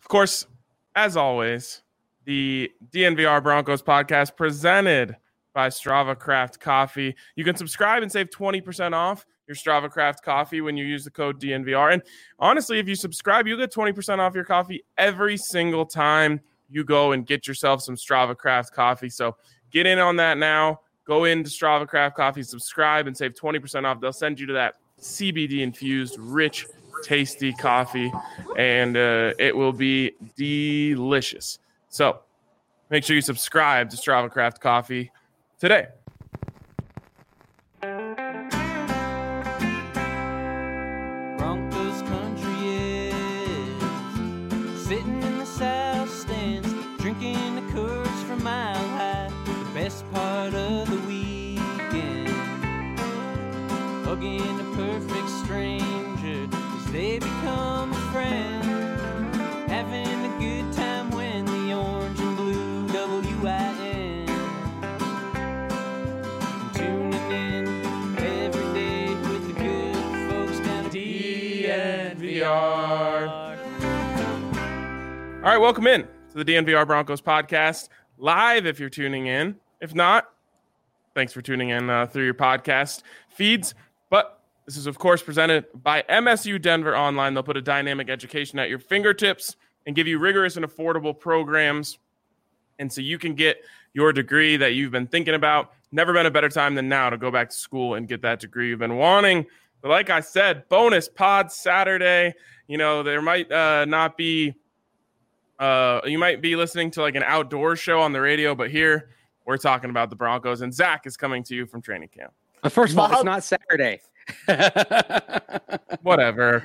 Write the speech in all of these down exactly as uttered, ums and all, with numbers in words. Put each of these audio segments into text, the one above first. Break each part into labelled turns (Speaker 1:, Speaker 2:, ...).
Speaker 1: Of course, as always, the D N V R Broncos podcast presented by Strava Craft Coffee. You can subscribe and save twenty percent off your Strava Craft coffee when you use the code D N V R. And honestly, if you subscribe, you get twenty percent off your coffee every single time you go and get yourself some Strava Craft coffee. So get in on that now. Go into Strava Craft Coffee, subscribe, and save twenty percent off. They'll send you to that C B D-infused, rich, tasty coffee, and uh, it will be delicious. So make sure you subscribe to Strava Craft Coffee today.
Speaker 2: Broncos country is sitting in the south stands, drinking the Coors from Mile High. The best part of the weekend, hugging a perfect stranger as they become a friend, having a good time when the orange and blue W I N, tuning in every day with the good folks down at
Speaker 1: D N V R. All right, welcome in to the D N V R Broncos podcast, live if you're tuning in. If not, thanks for tuning in uh, through your podcast feeds. But this is, of course, presented by M S U Denver Online. They'll put a dynamic education at your fingertips and give you rigorous and affordable programs. And so you can get your degree that you've been thinking about. Never been a better time than now to go back to school and get that degree you've been wanting. But like I said, bonus pod Saturday. You know, there might uh, not be, uh, you might be listening to like an outdoor show on the radio, but here we're talking about the Broncos. And Zach is coming to you from training camp.
Speaker 3: But first of all, it's not Saturday.
Speaker 1: Whatever.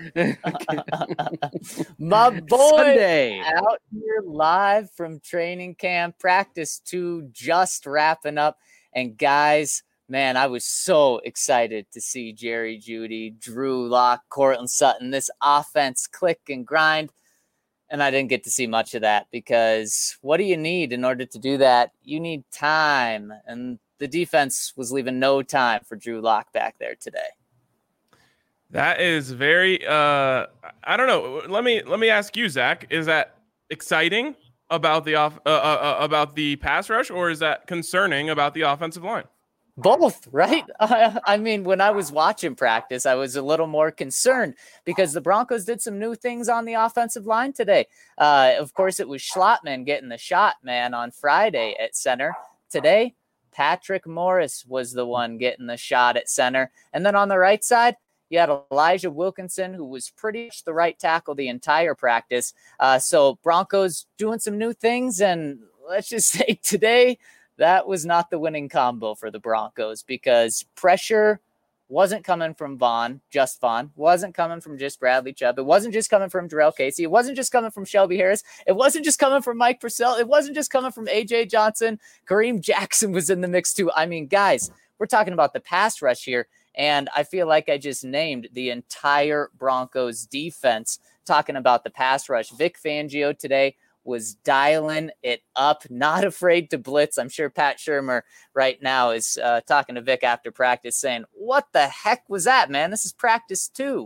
Speaker 4: My boy
Speaker 3: Sunday.
Speaker 4: out here live from training camp, practice two just wrapping up. And guys, man, I was so excited to see Jerry Jeudy, Drew Lock, Courtland Sutton, this offense click and grind. And I didn't get to see much of that because what do you need in order to do that? You need time. And the defense was leaving no time for Drew Lock back there today.
Speaker 1: That is very, uh, I don't know. Let me let me ask you, Zach. Is that exciting about the off uh, uh, about the pass rush, or is that concerning about the offensive line?
Speaker 4: Both, right? Uh, I mean, when I was watching practice, I was a little more concerned because the Broncos did some new things on the offensive line today. Uh, of course, it was Schlottman getting the shot, man, on Friday at center. Today, Patrick Morris was the one getting the shot at center. And then on the right side, you had Elijah Wilkinson, who was pretty much the right tackle the entire practice. Uh, so Broncos doing some new things. And let's just say today, that was not the winning combo for the Broncos because pressure wasn't coming from Vaughn, just Vaughn, wasn't coming from just Bradley Chubb. It wasn't just coming from Jarrell Casey. It wasn't just coming from Shelby Harris. It wasn't just coming from Mike Purcell. It wasn't just coming from A J Johnson. Kareem Jackson was in the mix too. I mean, guys, we're talking about the pass rush here. And I feel like I just named the entire Broncos defense talking about the pass rush. Vic Fangio today was dialing it up, not afraid to blitz. I'm sure Pat Shurmur right now is uh, talking to Vic after practice saying, what the heck was that, man? This is practice two.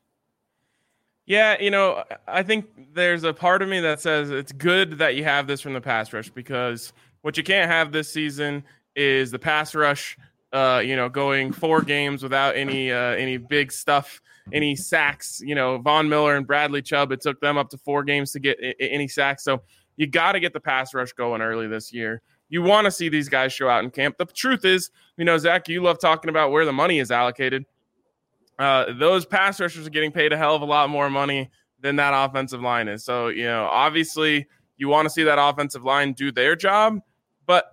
Speaker 1: Yeah, you know, I think there's a part of me that says it's good that you have this from the pass rush because what you can't have this season is the pass rush, uh, you know, going four games without any uh, any big stuff, any sacks. You know, Von Miller and Bradley Chubb, it took them up to four games to get I- any sacks. So you got to get the pass rush going early this year. You want to see these guys show out in camp. The truth is, you know, Zach, you love talking about where the money is allocated. Uh, those pass rushers are getting paid a hell of a lot more money than that offensive line is. So, you know, obviously you want to see that offensive line do their job, but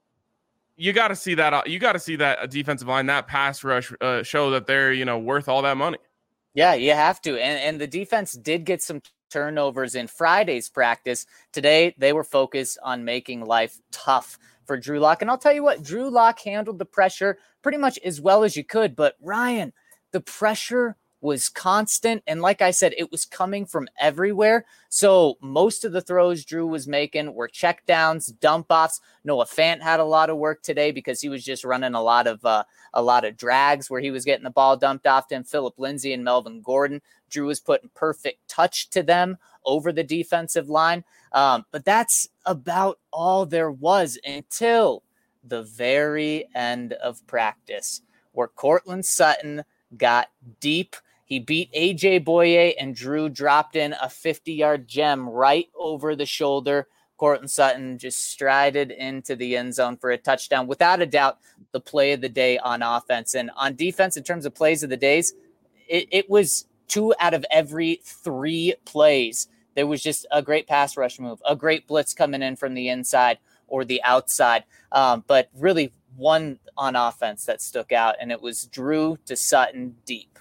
Speaker 1: you got to see that, you got to see that defensive line, that pass rush uh, show that they're, you know, worth all that money.
Speaker 4: Yeah, you have to. And, and the defense did get some turnovers in Friday's practice. Today, they were focused on making life tough for Drew Lock. And I'll tell you what, Drew Lock handled the pressure pretty much as well as you could. But Ryan, the pressure was constant. And like I said, it was coming from everywhere. So most of the throws Drew was making were check downs, dump offs. Noah Fant had a lot of work today because he was just running a lot of uh, a lot of drags where he was getting the ball dumped off to him. Phillip Lindsay and Melvin Gordon. Drew was putting perfect touch to them over the defensive line. Um, but that's about all there was until the very end of practice, where Courtland Sutton got deep. He beat A J Boye, and Drew dropped in a fifty-yard gem right over the shoulder. Courtland Sutton just strided into the end zone for a touchdown. Without a doubt, the play of the day on offense. And on defense, in terms of plays of the days, it, it was two out of every three plays. There was just a great pass rush move, a great blitz coming in from the inside or the outside. Um, but really one on offense that stuck out, and it was Drew to Sutton deep.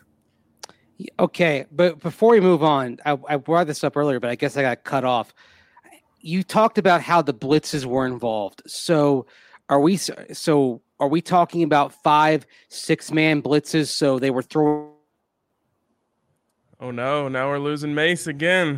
Speaker 3: Okay, but before we move on, I, I brought this up earlier, but I guess I got cut off. You talked about how the blitzes were involved. So are we so are we talking about five, six-man blitzes, so they were throwing?
Speaker 1: Oh, no, now we're losing Mace again.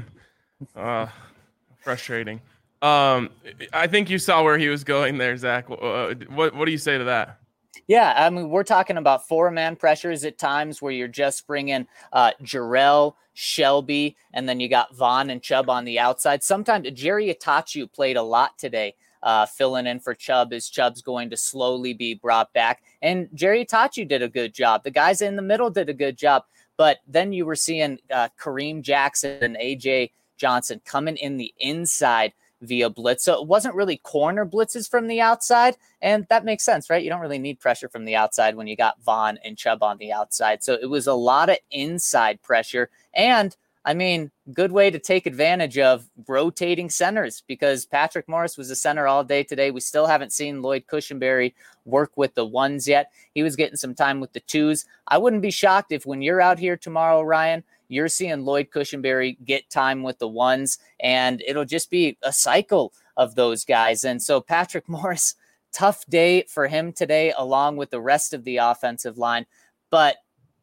Speaker 1: Uh, frustrating. Um, I think you saw where he was going there, Zach. Uh, what what do you say to that?
Speaker 4: Yeah, I mean, we're talking about four-man pressures at times where you're just bringing uh, Jarrell, Shelby, and then you got Vaughn and Chubb on the outside. Sometimes Jerry Itachu played a lot today, uh, filling in for Chubb as Chubb's going to slowly be brought back. And Jerry Itachu did a good job. The guys in the middle did a good job. But then you were seeing uh, Kareem Jackson and A J Johnson coming in the inside via blitz. So it wasn't really corner blitzes from the outside. And that makes sense, right? You don't really need pressure from the outside when you got Vaughn and Chubb on the outside. So it was a lot of inside pressure. And I mean, good way to take advantage of rotating centers, because Patrick Morris was a center all day today. We still haven't seen Lloyd Cushenberry work with the ones yet. He was getting some time with the twos. I wouldn't be shocked if when you're out here tomorrow, Ryan, you're seeing Lloyd Cushenberry get time with the ones, and it'll just be a cycle of those guys. And so Patrick Morris, tough day for him today, along with the rest of the offensive line. But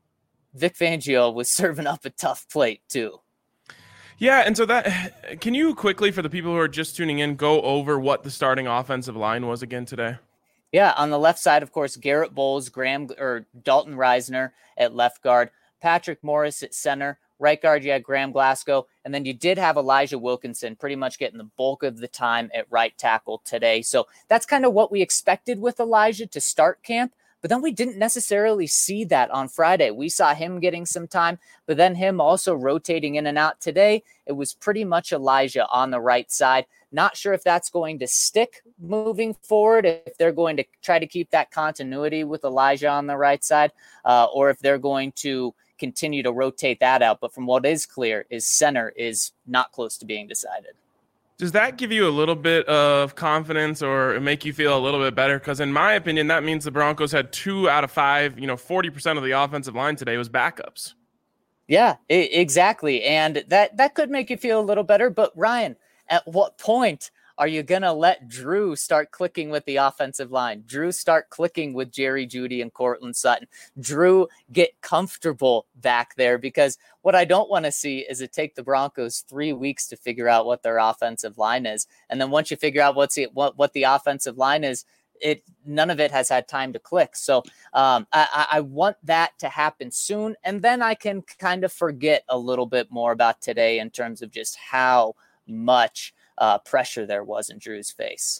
Speaker 4: Vic Fangio was serving up a tough plate too.
Speaker 1: Yeah, and so that, can you quickly, for the people who are just tuning in, go over what the starting offensive line was again today?
Speaker 4: Yeah, on the left side, of course, Garrett Bowles, Graham or Dalton Reisner at left guard, Patrick Morris at center. Right guard, you had Graham Glasgow, and then you did have Elijah Wilkinson pretty much getting the bulk of the time at right tackle today. So that's kind of what we expected with Elijah to start camp. But then we didn't necessarily see that on Friday. We saw him getting some time, but then him also rotating in and out today. It was pretty much Elijah on the right side. Not sure if that's going to stick moving forward, if they're going to try to keep that continuity with Elijah on the right side, uh, or if they're going to continue to rotate that out. But from what is clear is center is not close to being decided.
Speaker 1: Does that give you a little bit of confidence or make you feel a little bit better? Because in my opinion, that means the Broncos had two out of five, you know, forty percent of the offensive line today was backups.
Speaker 4: Yeah, I- exactly. And that, that could make you feel a little better. But Ryan, at what point are you going to let Drew start clicking with the offensive line? Drew start clicking with Jerry Jeudy and Courtland Sutton. Drew get comfortable back there, because what I don't want to see is it take the Broncos three weeks to figure out what their offensive line is. And then once you figure out what's the, what, what the offensive line is, it none of it has had time to click. So um, I, I want that to happen soon. And then I can kind of forget a little bit more about today in terms of just how much Uh, pressure there was in Drew's face.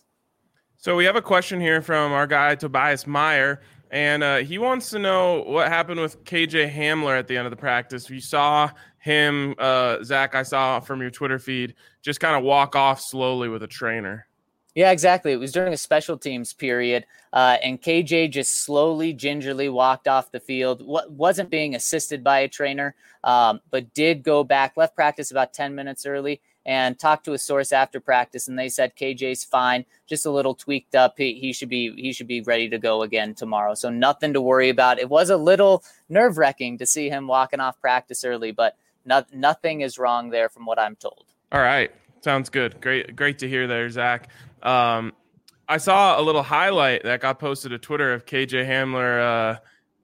Speaker 1: So we have a question here from our guy Tobias Meyer, and uh, he wants to know what happened with K J Hamler at the end of the practice. You saw him, uh, Zach, I saw from your Twitter feed, just kind of walk off slowly with a trainer.
Speaker 4: Yeah, exactly. It was during a special teams period, uh, and K J just slowly, gingerly walked off the field. W- wasn't being assisted by a trainer, um, but did go back, left practice about ten minutes early, and talked to a source after practice, and they said K J's fine, just a little tweaked up. He, he should be he should be ready to go again tomorrow. So nothing to worry about. It was a little nerve-wracking to see him walking off practice early, but no, nothing is wrong there from what I'm told.
Speaker 1: All right. Sounds good. Great great to hear there, Zach. Um, I saw a little highlight that got posted to Twitter of K J Hamler uh,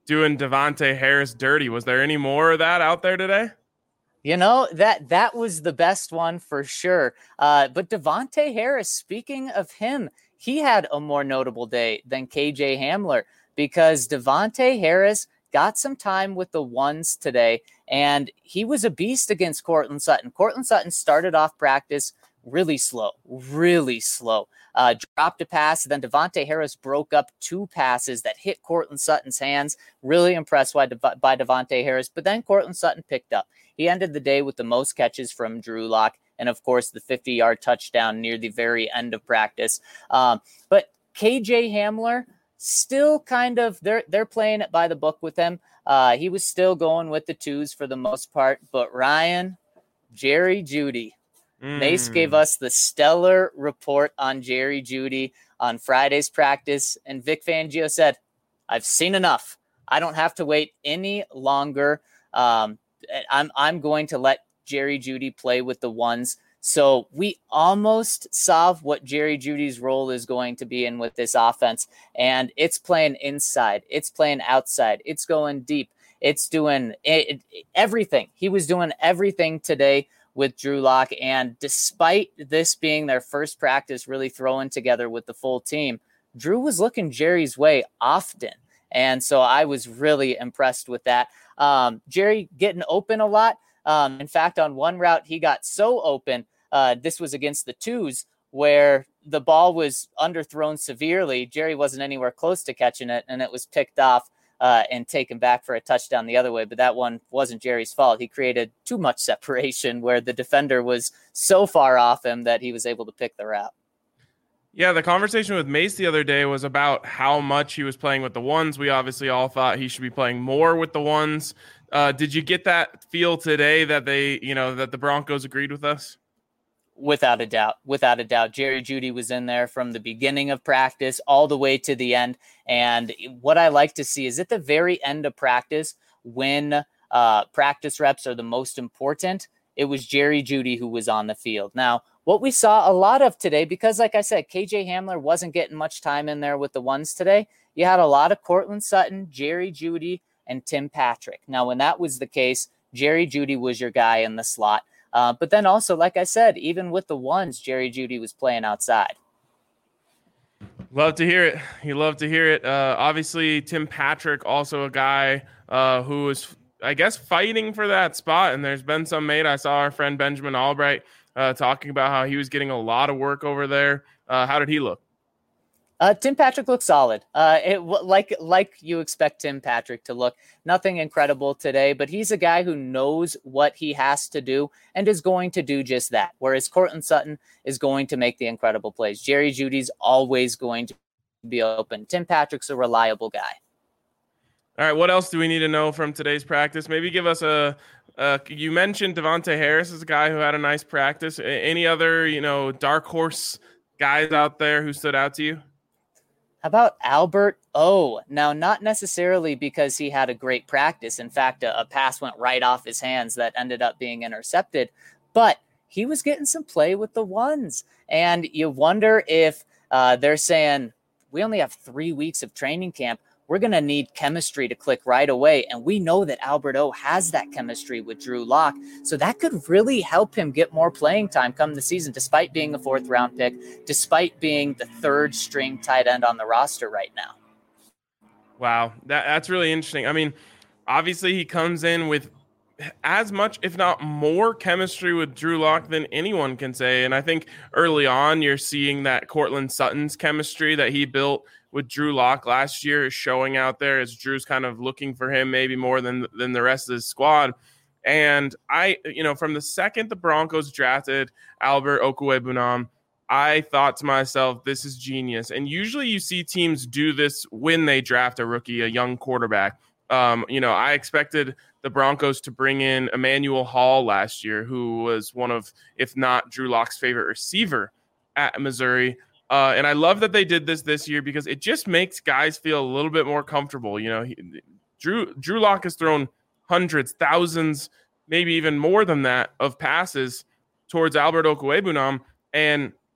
Speaker 1: doing Davante Harris dirty. Was there any more of that out there today?
Speaker 4: You know, that that was the best one for sure. Uh, but Davante Harris, speaking of him, he had a more notable day than K J Hamler because Davante Harris got some time with the ones today, and he was a beast against Courtland Sutton. Courtland Sutton started off practice really slow, really slow. Uh, dropped a pass, then Davante Harris broke up two passes that hit Courtland Sutton's hands. Really impressed by, Dev- by Davante Harris, but then Courtland Sutton picked up. He ended the day with the most catches from Drew Lock, and of course the fifty-yard touchdown near the very end of practice. Um, but K J Hamler, still kind of, they're they're playing it by the book with him. Uh, he was still going with the twos for the most part, but Ryan, Jerry Jeudy, mm. Mace gave us the stellar report on Jerry Jeudy on Friday's practice, and Vic Fangio said, I've seen enough. I don't have to wait any longer. Um, I'm I'm going to let Jerry Jeudy play with the ones. So we almost saw what Jerry Jeudy's role is going to be in with this offense. And it's playing inside. It's playing outside. It's going deep. It's doing it, it, everything. He was doing everything today with Drew Lock. And despite this being their first practice really throwing together with the full team, Drew was looking Jerry's way often. And so I was really impressed with that. Um, Jerry getting open a lot. Um, in fact, on one route, he got so open. Uh, this was against the twos where the ball was underthrown severely. Jerry wasn't anywhere close to catching it, and it was picked off uh, and taken back for a touchdown the other way. But that one wasn't Jerry's fault. He created too much separation where the defender was so far off him that he was able to pick the route.
Speaker 1: Yeah, the conversation with Mace the other day was about how much he was playing with the ones. We obviously all thought he should be playing more with the ones. Uh, did you get that feel today that they, you know, that the Broncos agreed with us?
Speaker 4: Without a doubt, without a doubt. Jerry Jeudy was in there from the beginning of practice all the way to the end. And what I like to see is at the very end of practice, when uh, practice reps are the most important, it was Jerry Jeudy who was on the field. Now, what we saw a lot of today, because like I said, K J Hamler wasn't getting much time in there with the ones today. You had a lot of Courtland Sutton, Jerry Jeudy, and Tim Patrick. Now, when that was the case, Jerry Jeudy was your guy in the slot. Uh, but then also, like I said, even with the ones, Jerry Jeudy was playing outside.
Speaker 1: Love to hear it. You love to hear it. Uh, obviously, Tim Patrick, also a guy uh, who is, I guess, fighting for that spot. And there's been some made. I saw our friend Benjamin Albright uh, talking about how he was getting a lot of work over there. Uh, how did he look?
Speaker 4: Uh, Tim Patrick looks solid. Uh, it like like you expect Tim Patrick to look. Nothing incredible today, but he's a guy who knows what he has to do and is going to do just that. Whereas Courtland Sutton is going to make the incredible plays. Jerry Jeudy's always going to be open. Tim Patrick's a reliable guy.
Speaker 1: All right, what else do we need to know from today's practice? Maybe give us a. Uh, you mentioned Davante Harris is a guy who had a nice practice. Any other, you know, dark horse guys out there who stood out to you?
Speaker 4: How about Albert O? Now, not necessarily because he had a great practice. In fact, a, a pass went right off his hands that ended up being intercepted. But he was getting some play with the ones. And you wonder if uh, they're saying, we only have three weeks of training camp. We're going to need chemistry to click right away. And we know that Albert O has that chemistry with Drew Lock. So that could really help him get more playing time come the season, despite being a fourth round pick, despite being the third string tight end on the roster right now.
Speaker 1: Wow. That, that's really interesting. I mean, obviously he comes in with as much, if not more chemistry with Drew Lock than anyone can say. And I think early on you're seeing that Courtland Sutton's chemistry that he built with Drew Lock last year is showing out there as Drew's kind of looking for him maybe more than than the rest of his squad. And I, you know, from the second the Broncos drafted Albert Okwuegbunam, I thought to myself, this is genius. And usually you see teams do this when they draft a rookie, a young quarterback. Um, you know, I expected the Broncos to bring in Emmanuel Hall last year, who was one of, if not Drew Lock's favorite receiver at Missouri. Uh, and I love that they did this this year because it just makes guys feel a little bit more comfortable. You know, he, Drew Drew Lock has thrown hundreds, thousands, maybe even more than that of passes towards Albert Okwuegbunam. And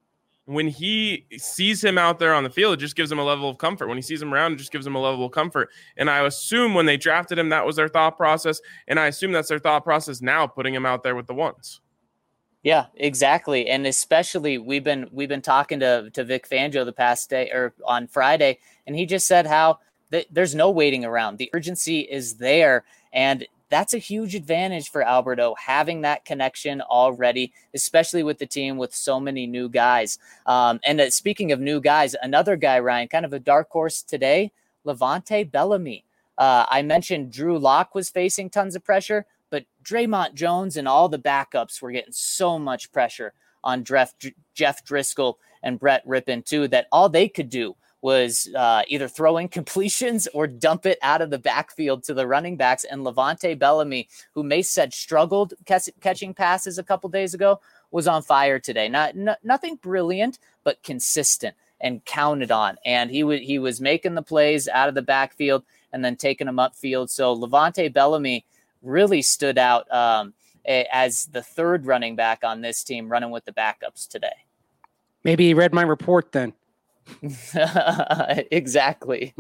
Speaker 1: when he sees him out there on the field, it just gives him a level of comfort. When he sees him around, it just gives him a level of comfort. And I assume when they drafted him, that was their thought process. And I assume that's their thought process now, putting him out there with the ones.
Speaker 4: Yeah, exactly. And especially we've been we've been talking to, to Vic Fangio the past day or on Friday, and he just said how th- there's no waiting around. The urgency is there. And that's a huge advantage for Alberto, having that connection already, especially with the team with so many new guys. Um, and uh, speaking of new guys, another guy, Ryan, kind of a dark horse today, Levante Bellamy. Uh, I mentioned Drew Lock was facing tons of pressure, but Draymond Jones and all the backups were getting so much pressure on Jeff, Jeff Driscoll and Brett Rippon too, that all they could do was uh, either throw in completions or dump it out of the backfield to the running backs. And Levante Bellamy, who Mace said struggled catch, catching passes a couple days ago, was on fire today. Not n- nothing brilliant, but consistent and counted on. And he w- he was making the plays out of the backfield and then taking them upfield. So Levante Bellamy really stood out um, as the third running back on this team, running with the backups today.
Speaker 3: Maybe he read my report then.
Speaker 4: Exactly.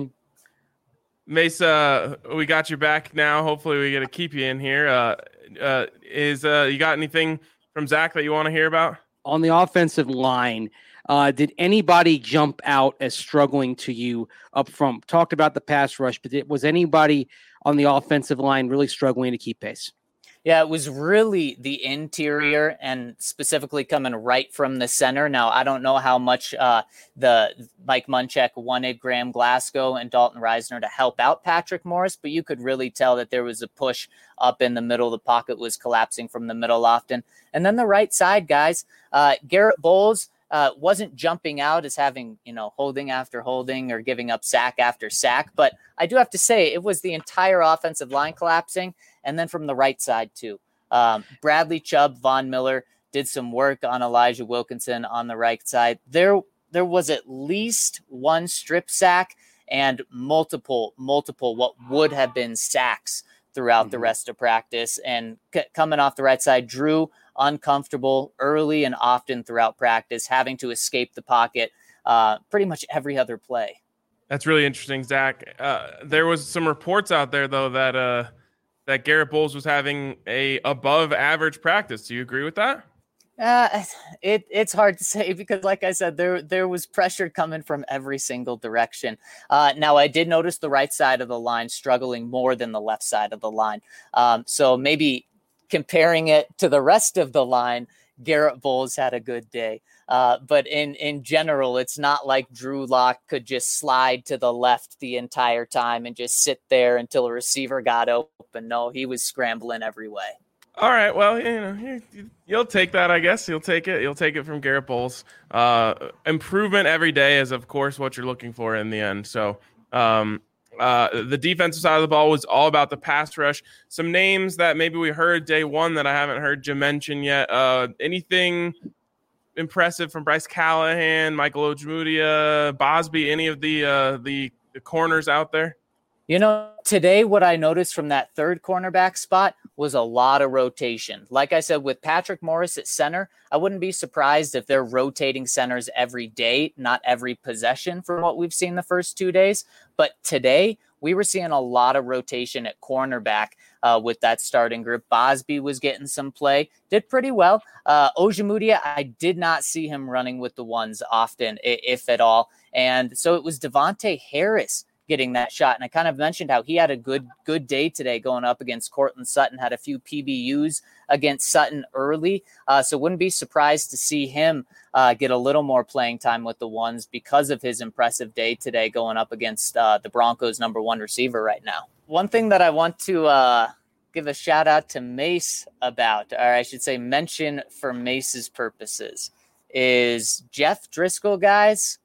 Speaker 1: Mesa, we got you back now. Hopefully we get to keep you in here. Uh, uh, is uh, you got anything from Zach that you want to hear about?
Speaker 3: On the offensive line, uh, did anybody jump out as struggling to you up front? Talked about the pass rush, but it, was anybody on the offensive line really struggling to keep pace?
Speaker 4: Yeah, it was really the interior and specifically coming right from the center. Now, I don't know how much uh, the Mike Munchak wanted Graham Glasgow and Dalton Reisner to help out Patrick Morris, but you could really tell that there was a push up in the middle. The pocket was collapsing from the middle often. And then the right side, guys, uh, Garrett Bowles uh, wasn't jumping out as having, you know, holding after holding or giving up sack after sack. But I do have to say it was the entire offensive line collapsing. And then from the right side, too. Um, Bradley Chubb, Von Miller did some work on Elijah Wilkinson on the right side. There, there was at least one strip sack and multiple, multiple what would have been sacks throughout mm-hmm. the rest of practice. And c- coming off the right side, Drew uncomfortable early and often throughout practice, having to escape the pocket uh, pretty much every other play.
Speaker 1: That's really interesting, Zach. Uh, there was some reports out there, though, that uh, – that Garrett Bowles was having a above average practice. Do you agree with that?
Speaker 4: Uh, it it's hard to say because, like I said, there there was pressure coming from every single direction. Uh, now, I did notice the right side of the line struggling more than the left side of the line. Um, so maybe comparing it to the rest of the line, Garrett Bowles had a good day. Uh, but in, in general, it's not like Drew Lock could just slide to the left the entire time and just sit there until a receiver got open. No, he was scrambling every way.
Speaker 1: All right. Well, you know, you, you'll take that, I guess. You'll take it. You'll take it from Garrett Bowles. Uh, improvement every day is, of course, what you're looking for in the end. So um, uh, the defensive side of the ball was all about the pass rush. Some names that maybe we heard day one that I haven't heard you mention yet. Uh, anything impressive from Bryce Callahan, Michael Ojemudia, Bosby, any of the, uh, the the corners out there?
Speaker 4: You know, today what I noticed from that third cornerback spot was a lot of rotation. Like I said, with Patrick Morris at center, I wouldn't be surprised if they're rotating centers every day, not every possession from what we've seen the first two days. But today, we were seeing a lot of rotation at cornerback uh, with that starting group. Bosby was getting some play, did pretty well. Uh, Ojemudia, I did not see him running with the ones often, if at all. And so it was Devontae Harris getting that shot. And I kind of mentioned how he had a good, good day today going up against Cortland Sutton, had a few P B Us against Sutton early. Uh, so wouldn't be surprised to see him uh, get a little more playing time with the ones because of his impressive day today going up against uh, the Broncos' number one receiver right now. One thing that I want to uh, give a shout out to Mace about, or I should say mention for Mace's purposes, is Jeff Driscoll, guys.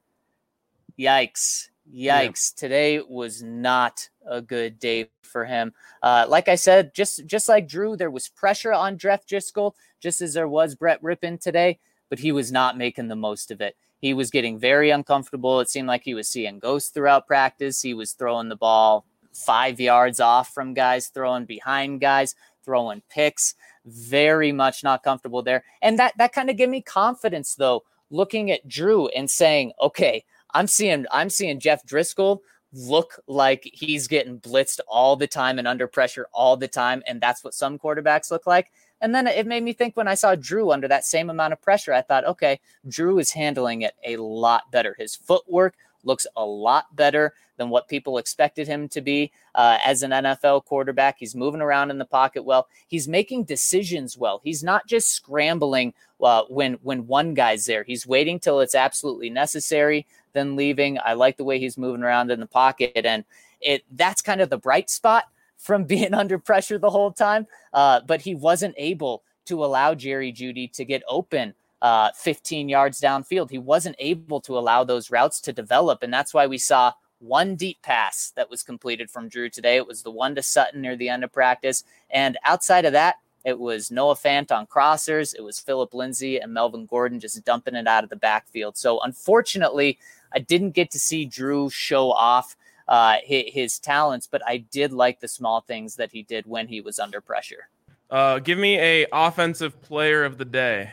Speaker 4: Yikes. Yikes. Yeah. Today was not a good day for him. Uh, like I said, just just like Drew, there was pressure on Jeff Driscoll, just as there was Brett Rippon today, but he was not making the most of it. He was getting very uncomfortable. It seemed like he was seeing ghosts throughout practice. He was throwing the ball five yards off from guys, throwing behind guys, throwing picks. Very much not comfortable there. And that, that kind of gave me confidence, though, looking at Drew and saying, okay, I'm seeing, I'm seeing Jeff Driscoll look like he's getting blitzed all the time and under pressure all the time. And that's what some quarterbacks look like. And then it made me think when I saw Drew under that same amount of pressure, I thought, okay, Drew is handling it a lot better. His footwork looks a lot better than what people expected him to be uh, as an N F L quarterback. He's moving around in the pocket well. He's making decisions well. He's not just scrambling uh, when when one guy's there. He's waiting till it's absolutely necessary, then leaving. I like the way he's moving around in the pocket, and it that's kind of the bright spot from being under pressure the whole time. Uh, but he wasn't able to allow Jerry Jeudy to get open uh, fifteen yards downfield. He wasn't able to allow those routes to develop, and that's why we saw one deep pass that was completed from Drew today. It was the one to Sutton near the end of practice. And outside of that, it was Noah Fant on crossers. It was Phillip Lindsay and Melvin Gordon just dumping it out of the backfield. So unfortunately, I didn't get to see Drew show off uh, his, his talents, but I did like the small things that he did when he was under pressure.
Speaker 1: Uh, give me a offensive player of the day.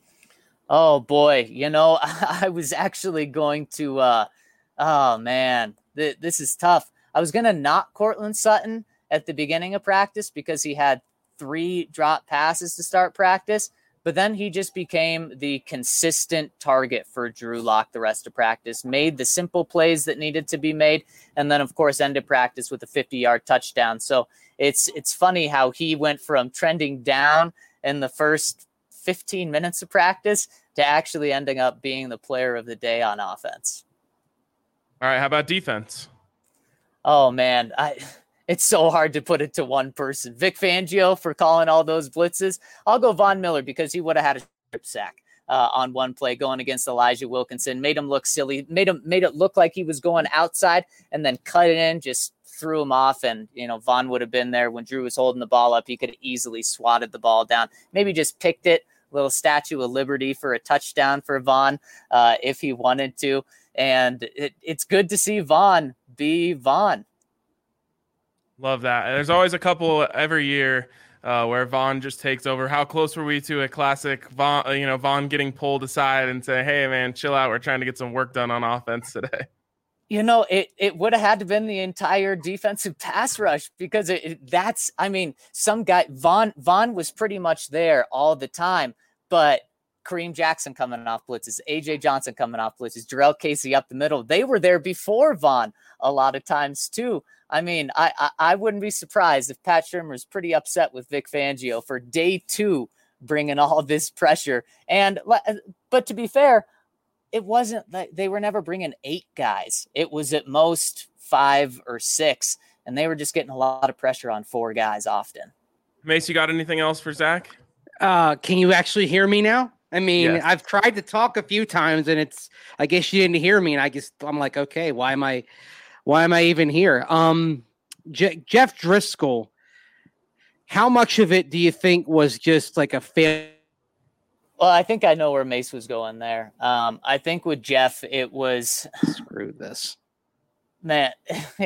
Speaker 4: Oh boy. You know, I was actually going to, uh, oh man, th- this is tough. I was going to knock Cortland Sutton at the beginning of practice because he had three drop passes to start practice, but then he just became the consistent target for Drew Lock the rest of practice, made the simple plays that needed to be made, and then of course ended practice with a fifty-yard touchdown. So it's it's funny how he went from trending down in the first fifteen minutes of practice to actually ending up being the player of the day on offense.
Speaker 1: All right, how about defense?
Speaker 4: Oh man, I it's so hard to put it to one person. Vic Fangio for calling all those blitzes. I'll go Von Miller because he would have had a strip sack uh, on one play going against Elijah Wilkinson. Made him look silly. Made him made it look like he was going outside and then cut it in. Just threw him off. And you know Von would have been there when Drew was holding the ball up. He could have easily swatted the ball down. Maybe just picked it. Little Statue of Liberty for a touchdown for Von uh, if he wanted to. And it, it's good to see Von be Von.
Speaker 1: Love that. There's always a couple every year uh, where Von just takes over. How close were we to a classic Von, you know, Von getting pulled aside and say, hey, man, chill out. We're trying to get some work done on offense today.
Speaker 4: You know, it, it would have had to been the entire defensive pass rush because it, it, that's, I mean, some guy, Von, Von was pretty much there all the time, but Kareem Jackson coming off blitzes, A J Johnson coming off blitzes, Jarrell Casey up the middle. They were there before Von a lot of times too. I mean, I, I, I wouldn't be surprised if Pat Shurmur's pretty upset with Vic Fangio for day two, bringing all this pressure. And, but to be fair, it wasn't like they were never bringing eight guys. It was at most five or six, and they were just getting a lot of pressure on four guys often.
Speaker 1: Mace, you got anything else for Zach?
Speaker 3: Uh, can you actually hear me now? I mean,
Speaker 1: Yes.
Speaker 3: I've tried to talk a few times and it's, I guess you didn't hear me. And I just, I'm like, okay, why am I, why am I even here? Um, Je- Jeff Driscoll, how much of it do you think was just like a fail?
Speaker 4: Well, I think I know where Mace was going there. Um, I think with Jeff, it was,
Speaker 3: Screw this.
Speaker 4: man,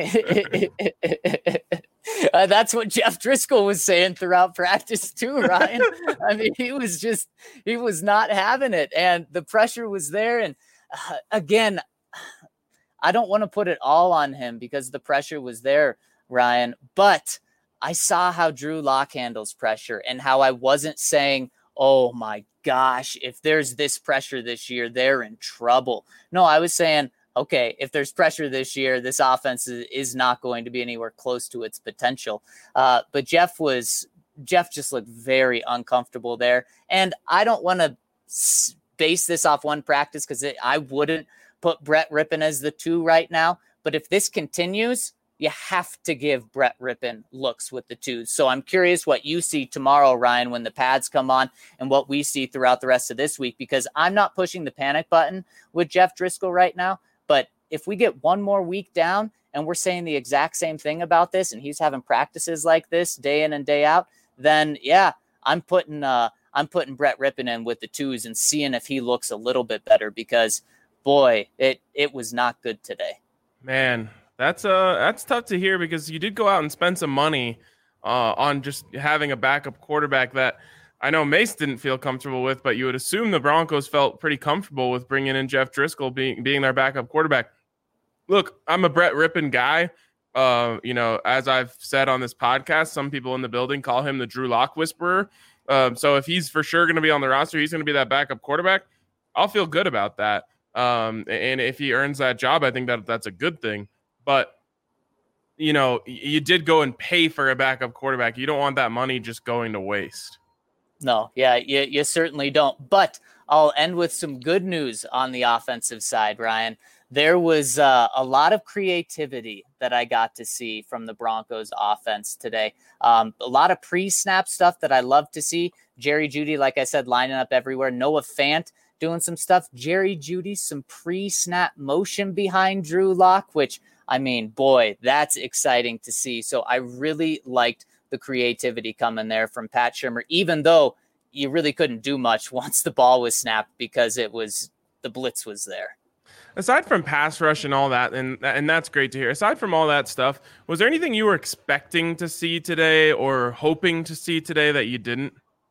Speaker 4: uh, that's what Jeff Driscoll was saying throughout practice too, Ryan. I mean, he was just, he was not having it, and the pressure was there. And uh, again, I don't want to put it all on him because the pressure was there, Ryan, but I saw how Drew Lock handles pressure and how I wasn't saying, oh my gosh, if there's this pressure this year, they're in trouble. No, I was saying, okay, if there's pressure this year, this offense is, is not going to be anywhere close to its potential. Uh, but Jeff was, Jeff just looked very uncomfortable there. And I don't want to base this off one practice because I wouldn't put Brett Rippon as the two right now. But if this continues, you have to give Brett Rippon looks with the twos. So I'm curious what you see tomorrow, Ryan, when the pads come on and what we see throughout the rest of this week, because I'm not pushing the panic button with Jeff Driscoll right now. But if we get one more week down and we're saying the exact same thing about this and he's having practices like this day in and day out, then yeah, I'm putting uh, I'm putting Brett Rippon in with the twos and seeing if he looks a little bit better because, boy, it it was not good today.
Speaker 1: Man, that's uh that's tough to hear because you did go out and spend some money uh, on just having a backup quarterback that I know Mace didn't feel comfortable with, but you would assume the Broncos felt pretty comfortable with bringing in Jeff Driscoll being being their backup quarterback. Look, I'm a Brett Rippon guy. Uh, you know, as I've said on this podcast, some people in the building call him the Drew Lock whisperer. Um, so if he's for sure going to be on the roster, he's going to be that backup quarterback. I'll feel good about that. Um, and if he earns that job, I think that that's a good thing. But, you know, you did go and pay for a backup quarterback. You don't want that money just going to waste.
Speaker 4: No, yeah, you, you certainly don't. But I'll end with some good news on the offensive side, Ryan. There was uh, a lot of creativity that I got to see from the Broncos offense today. Um, a lot of pre-snap stuff that I love to see. Jerry Jeudy, like I said, lining up everywhere. Noah Fant doing some stuff. Jerry Jeudy, some pre-snap motion behind Drew Lock, which, I mean, boy, that's exciting to see. So I really liked the creativity coming there from Pat Shurmur, even though you really couldn't do much once the ball was snapped because it was the blitz was there.
Speaker 1: Aside from pass rush and all that, and and that's great to hear. Aside from all that stuff, was there anything you were expecting to see today or hoping to see today that you didn't?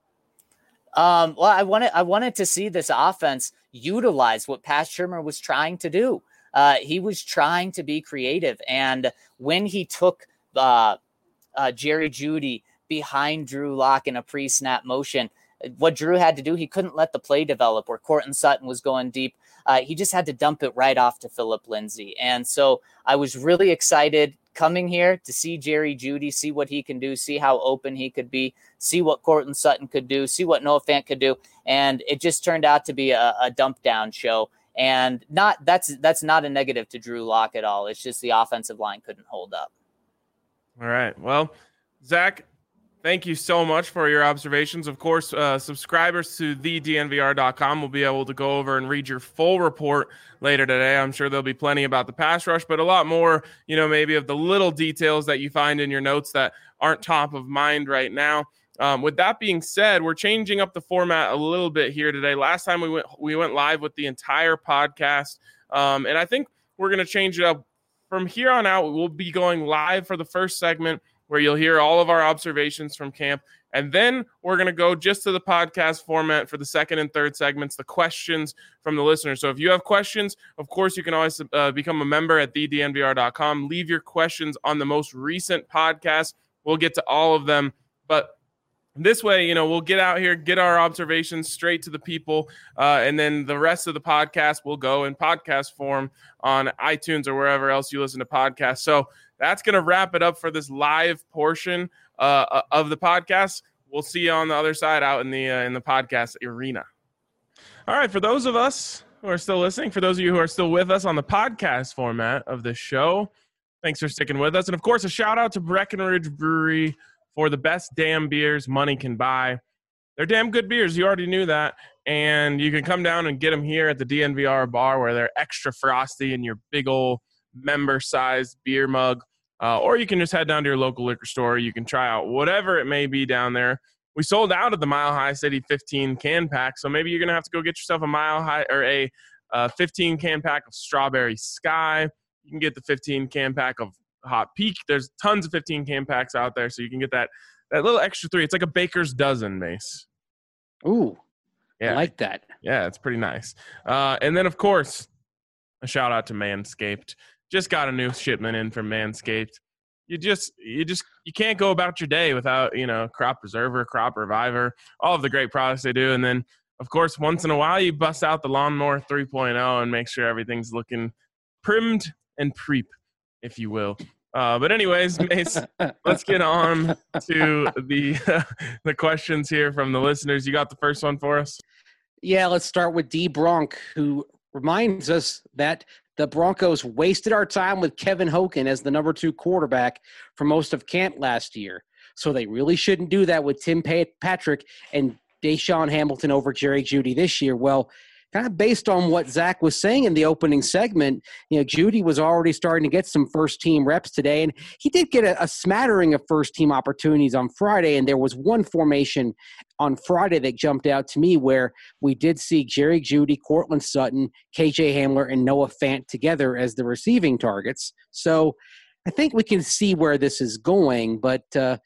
Speaker 4: Um, well, I wanted I wanted to see this offense utilize what Pat Shurmur was trying to do. Uh, he was trying to be creative, and when he took uh, uh, Jerry Jeudy behind Drew Lock in a pre-snap motion, what Drew had to do, he couldn't let the play develop where Courtland Sutton was going deep. Uh, he just had to dump it right off to Phillip Lindsay. And so I was really excited coming here to see Jerry Jeudy, see what he can do, see how open he could be, see what Courtland Sutton could do, see what Noah Fant could do. And it just turned out to be a, a dump down show. And not that's that's not a negative to Drew Lock at all. It's just the offensive line couldn't hold up.
Speaker 1: All right. Well, Zach, thank you so much for your observations. Of course, uh, subscribers to the D N V R dot com will be able to go over and read your full report later today. I'm sure there'll be plenty about the pass rush, but a lot more, you know, maybe of the little details that you find in your notes that aren't top of mind right now. Um, with that being said, we're changing up the format a little bit here today. Last time we went we went live with the entire podcast, um, and I think we're going to change it up. From here on out, we'll be going live for the first segment, where you'll hear all of our observations from camp. And then we're going to go just to the podcast format for the second and third segments, the questions from the listeners. So if you have questions, of course, you can always uh, become a member at the D N V R dot com. Leave your questions on the most recent podcast. We'll get to all of them. But this way, you know, we'll get out here, get our observations straight to the people, uh, and then the rest of the podcast will go in podcast form on iTunes or wherever else you listen to podcasts. So that's going to wrap it up for this live portion uh, of the podcast. We'll see you on the other side out in the uh, in the podcast arena. All right, for those of us who are still listening, for those of you who are still with us on the podcast format of this show, thanks for sticking with us. And, of course, a shout-out to Breckenridge Brewery for the best damn beers money can buy. They're damn good beers. You already knew that. And you can come down and get them here at the D N V R bar where they're extra frosty in your big old member-sized beer mug. Uh, or you can just head down to your local liquor store. You can try out whatever it may be down there. We sold out of the Mile High City fifteen can pack, so maybe you're going to have to go get yourself a Mile High or a uh, fifteen can pack of Strawberry Sky. You can get the fifteen can pack of Hot Peak. There's tons of fifteen can packs out there, so you can get that that little extra three. It's like a baker's dozen, Mace.
Speaker 3: Ooh,
Speaker 1: yeah,
Speaker 3: I like that.
Speaker 1: Yeah, it's pretty nice. Uh, and then, of course, a shout out to Manscaped. Just got a new shipment in from Manscaped. You just, you just, you can't go about your day without, you know, Crop Preserver, Crop Reviver, all of the great products they do. And then, of course, once in a while, you bust out the Lawnmower three point oh and make sure everything's looking primed and preep, if you will. Uh, but anyways, Mace, let's get on to the uh, the questions here from the listeners. You got the first one for us?
Speaker 3: Yeah, let's start with D. Bronk, who reminds us that the Broncos wasted our time with Kevin Hogan as the number two quarterback for most of camp last year. So they really shouldn't do that with Tim Patrick and Deshaun Hamilton over Jerry Jeudy this year. Well, kind of based on what Zach was saying in the opening segment, you know, Jeudy was already starting to get some first-team reps today, and he did get a, a smattering of first-team opportunities on Friday, and there was one formation on Friday that jumped out to me where we did see Jerry Jeudy, Courtland Sutton, K J Hamler, and Noah Fant together as the receiving targets. So I think we can see where this is going, but uh,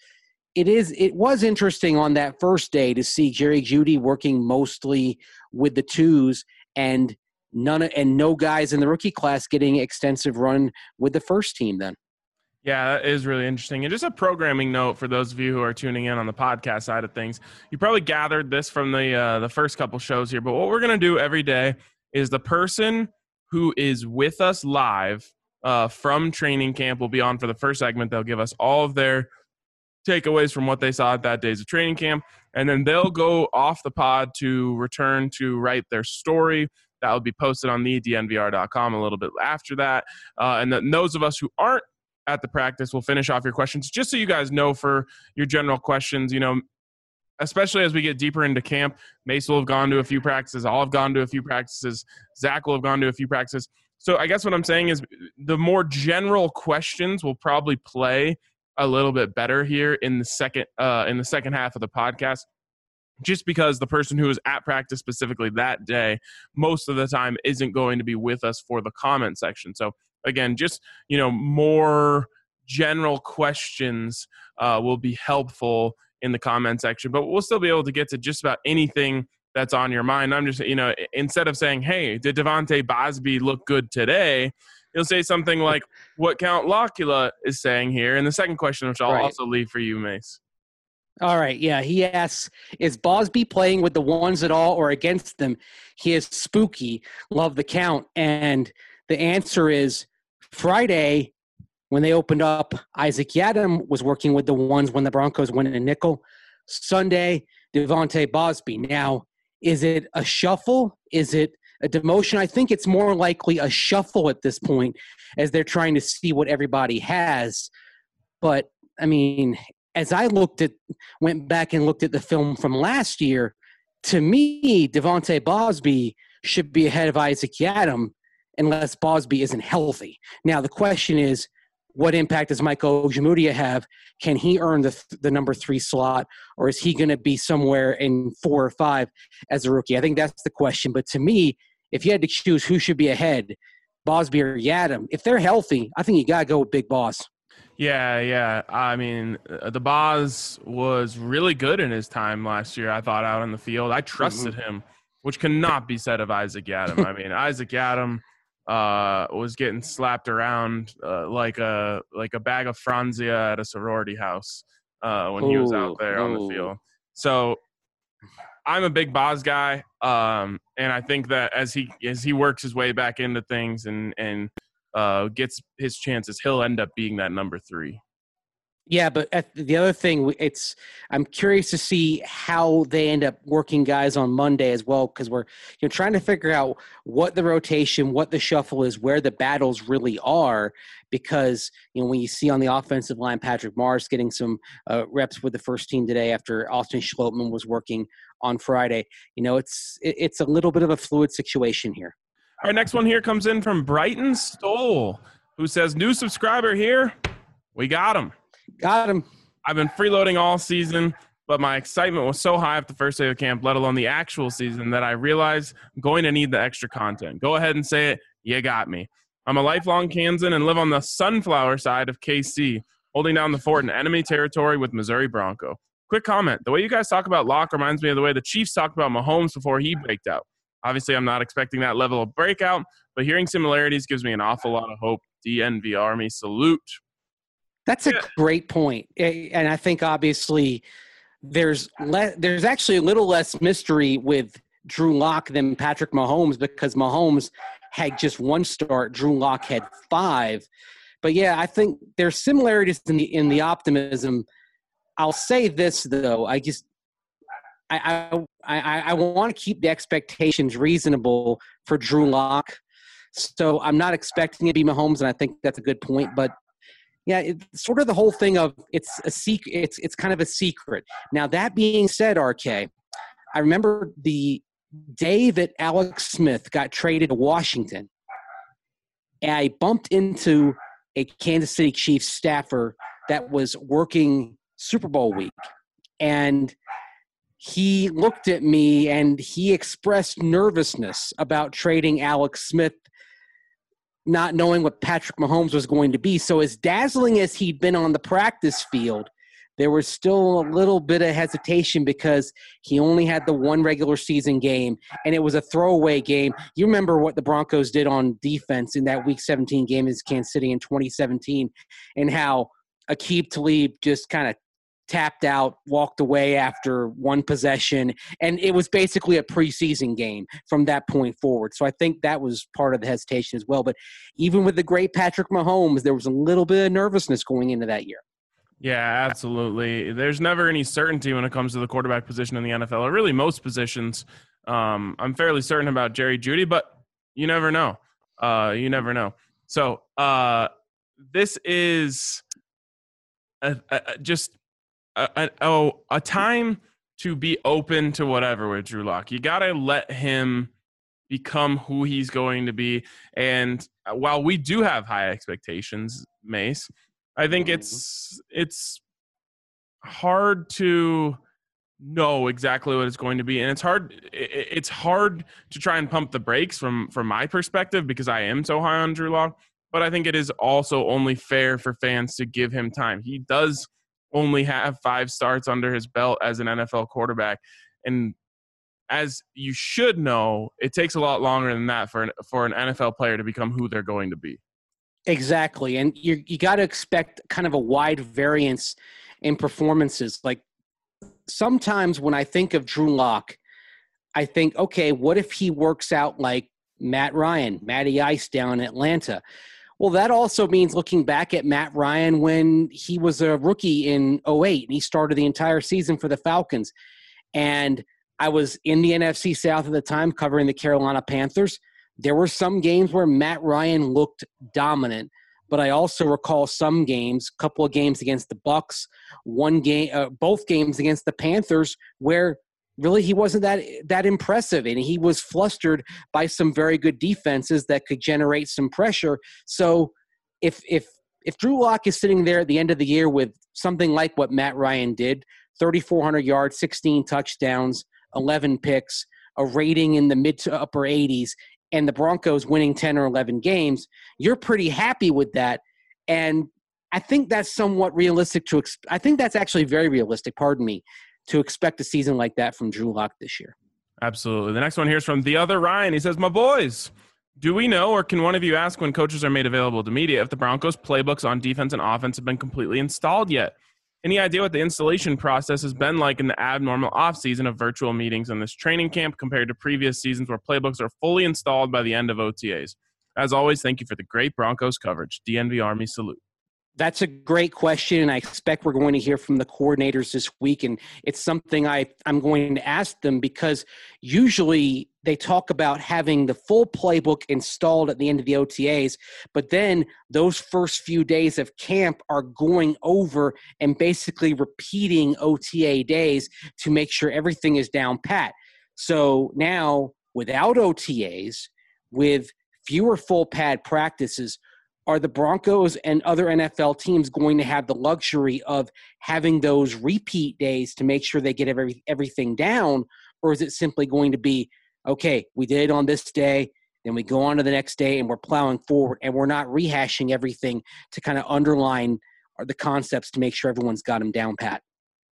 Speaker 3: it is. It was interesting on that first day to see Jerry Jeudy working mostly with the twos and none and no guys in the rookie class getting extensive run with the first team. Then,
Speaker 1: yeah, that is really interesting. And just a programming note for those of you who are tuning in on the podcast side of things, you probably gathered this from the uh, the first couple shows here. But what we're gonna do every day is the person who is with us live uh, from training camp will be on for the first segment. They'll give us all of their takeaways from what they saw at that day's of training camp, and then they'll go off the pod to return to write their story. That will be posted on the D N V R dot com a little bit after that. Uh, and then those of us who aren't at the practice will finish off your questions, just so you guys know for your general questions, you know, especially as we get deeper into camp. Mace will have gone to a few practices. I'll have gone to a few practices. Zach will have gone to a few practices. So I guess what I'm saying is the more general questions will probably play a little bit better here in the second uh, in the second half of the podcast, just because the person who is at practice specifically that day most of the time isn't going to be with us for the comment section. So again, just, you know, more general questions uh, will be helpful in the comment section, but we'll still be able to get to just about anything that's on your mind. I'm just, you know, instead of saying, hey, did Devontae Bosby look good today? You'll say something like what Count Locula is saying here. And the second question, which I'll
Speaker 3: Right.
Speaker 1: also leave for you, Mace.
Speaker 3: All right, yeah. He asks, is Bosby playing with the ones at all or against them? He is spooky. Love the count. And the answer is Friday, when they opened up, Isaac Yadam was working with the ones when the Broncos went in a nickel. Sunday, Devontae Bosby. Now, is it a shuffle? Is it a demotion? I think it's more likely a shuffle at this point as they're trying to see what everybody has. But, I mean, as I looked at, went back and looked at the film from last year, to me, Devontae Bosby should be ahead of Isaac Yadam unless Bosby isn't healthy. Now, the question is, what impact does Michael Ojemudia have? Can he earn the the number three slot, or is he going to be somewhere in four or five as a rookie? I think that's the question. But to me, if you had to choose who should be ahead, Bosby or Yadam, if they're healthy, I think you got to go with Big Boss.
Speaker 1: Yeah, yeah. I mean, uh, the Boz was really good in his time last year, I thought, out on the field. I trusted mm-hmm. him, which cannot be said of Isaac Yadam. I mean, Isaac Yadam uh, was getting slapped around uh, like a like a bag of Franzia at a sorority house uh, when ooh, he was out there ooh. on the field. So I'm a big Boz guy, um, and I think that as he as he works his way back into things and and uh, gets his chances, he'll end up being that number three.
Speaker 3: Yeah, but at the other thing, it's I'm curious to see how they end up working guys on Monday as well, because we're you know trying to figure out what the rotation, what the shuffle is, where the battles really are. Because you know when you see on the offensive line, Patrick Morris getting some uh, reps with the first team today after Austin Schlottman was working on Friday, you know it's it, it's a little bit of a fluid situation here.
Speaker 1: All right, next one here comes in from Brighton Stoll, who says, "New subscriber here, we got him."
Speaker 3: Got him.
Speaker 1: I've been freeloading all season, but my excitement was so high at the first day of camp, let alone the actual season, that I realized I'm going to need the extra content. Go ahead and say it. You got me. I'm a lifelong Kansan and live on the sunflower side of K C, holding down the fort in enemy territory with Missouri Bronco. Quick comment. The way you guys talk about Locke reminds me of the way the Chiefs talked about Mahomes before he breaked out. Obviously, I'm not expecting that level of breakout, but hearing similarities gives me an awful lot of hope. D N V Army salute.
Speaker 3: That's a great point. And I think obviously there's le- there's actually a little less mystery with Drew Lock than Patrick Mahomes, because Mahomes had just one start. Drew Lock had five. But yeah, I think there's similarities in the in the optimism. I'll say this though, I just I I I, I want to keep the expectations reasonable for Drew Lock. So I'm not expecting it to be Mahomes, and I think that's a good point. But yeah, it's sort of the whole thing of it's a secret. It's it's kind of a secret. Now that being said, R K, I remember the day that Alex Smith got traded to Washington, and I bumped into a Kansas City Chiefs staffer that was working Super Bowl week, and he looked at me and he expressed nervousness about trading Alex Smith, not knowing what Patrick Mahomes was going to be. So as dazzling as he'd been on the practice field, there was still a little bit of hesitation because he only had the one regular season game, and it was a throwaway game. You remember what the Broncos did on defense in that Week seventeen game against Kansas City in twenty seventeen, and how Aqib Talib just kind of tapped out, walked away after one possession, and it was basically a preseason game from that point forward. So I think that was part of the hesitation as well. But even with the great Patrick Mahomes, there was a little bit of nervousness going into that year.
Speaker 1: Yeah, absolutely. There's never any certainty when it comes to the quarterback position in the N F L, or really most positions. Um, I'm fairly certain about Jerry Jeudy, but you never know. Uh, you never know. So uh, this is a, a, just a, a, oh, a time to be open to whatever with Drew Lock. You got to let him become who he's going to be. And while we do have high expectations, Mace, I think it's it's hard to know exactly what it's going to be, and it's hard it's hard to try and pump the brakes from from my perspective because I am so high on Drew Lock. But I think it is also only fair for fans to give him time. He does only have five starts under his belt as an N F L quarterback, and as you should know, it takes a lot longer than that for an, for an N F L player to become who they're going to be.
Speaker 3: Exactly. And you you got to expect kind of a wide variance in performances. Like sometimes when I think of Drew Lock, I think, okay, what if he works out like Matt Ryan, Matty Ice down in Atlanta? Well, that also means looking back at Matt Ryan when he was a rookie in oh eight and he started the entire season for the Falcons. And I was in the N F C South at the time covering the Carolina Panthers. There were some games where Matt Ryan looked dominant, but I also recall some games, a couple of games against the Bucs, one game, uh, both games against the Panthers, where really he wasn't that that impressive, and he was flustered by some very good defenses that could generate some pressure. So, if if if Drew Lock is sitting there at the end of the year with something like what Matt Ryan did, thirty-four hundred yards, sixteen touchdowns, eleven picks, a rating in the mid to upper eighties, and the Broncos winning ten or eleven games, you're pretty happy with that. And I think that's somewhat realistic to – I think that's actually very realistic, pardon me, to expect a season like that from Drew Lock this year.
Speaker 1: Absolutely. The next one here is from the other Ryan. He says, my boys, do we know or can one of you ask when coaches are made available to media if the Broncos playbooks on defense and offense have been completely installed yet? Any idea what the installation process has been like in the abnormal offseason of virtual meetings in this training camp compared to previous seasons where playbooks are fully installed by the end of O T As? As always, thank you for the great Broncos coverage. D N V Army salute.
Speaker 3: That's a great question, and I expect we're going to hear from the coordinators this week, and it's something I, I'm going to ask them because usually they talk about having the full playbook installed at the end of the O T As, but then those first few days of camp are going over and basically repeating O T A days to make sure everything is down pat. So now, without O T As, with fewer full pad practices, are the Broncos and other N F L teams going to have the luxury of having those repeat days to make sure they get every, everything down? Or is it simply going to be, okay, we did it on this day, then we go on to the next day and we're plowing forward and we're not rehashing everything to kind of underline the concepts to make sure everyone's got them down pat?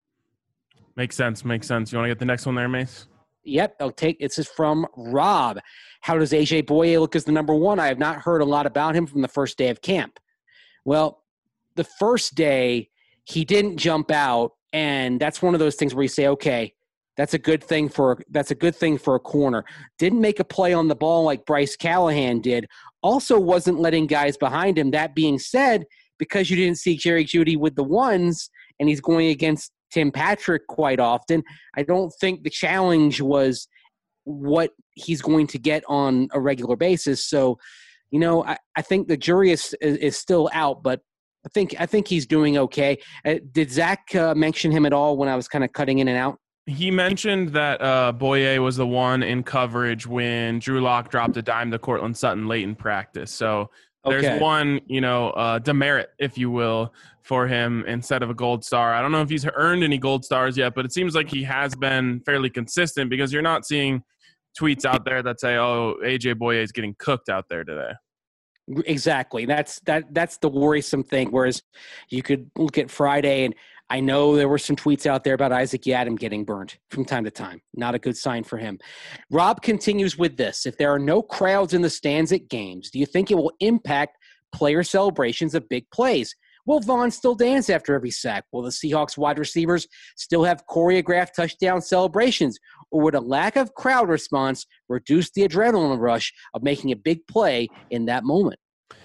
Speaker 1: Makes sense. Makes sense. You want to get the next one there, Mace?
Speaker 3: Yep, I'll take this is from Rob. How does A J Boye look as the number one? I have not heard a lot about him from the first day of camp. Well, the first day he didn't jump out, and that's one of those things where you say, okay, that's a good thing for that's a good thing for a corner. Didn't make a play on the ball like Bryce Callahan did. Also wasn't letting guys behind him. That being said, because you didn't see Jerry Jeudy with the ones, and he's going against Tim Patrick quite often, I don't think the challenge was what he's going to get on a regular basis. So, you know, I, I think the jury is, is is still out, but I think I think he's doing okay. Uh, did Zach uh, mention him at all when I was kind of cutting in and out?
Speaker 1: He mentioned that uh, Boye was the one in coverage when Drew Lock dropped a dime to Cortland Sutton late in practice. So there's
Speaker 3: Okay.
Speaker 1: one, you know, uh, demerit, if you will, for him instead of a gold star. I don't know if he's earned any gold stars yet, but it seems like he has been fairly consistent because you're not seeing tweets out there that say, oh, A J Boye is getting cooked out there today.
Speaker 3: Exactly. That's that. That's the worrisome thing. Whereas you could look at Friday, and I know there were some tweets out there about Isaac Yiadom getting burned from time to time. Not a good sign for him. Rob continues with this. If there are no crowds in the stands at games, do you think it will impact player celebrations of big plays? Will Vaughn still dance after every sack? Will the Seahawks wide receivers still have choreographed touchdown celebrations? Or would a lack of crowd response reduce the adrenaline rush of making a big play in that moment?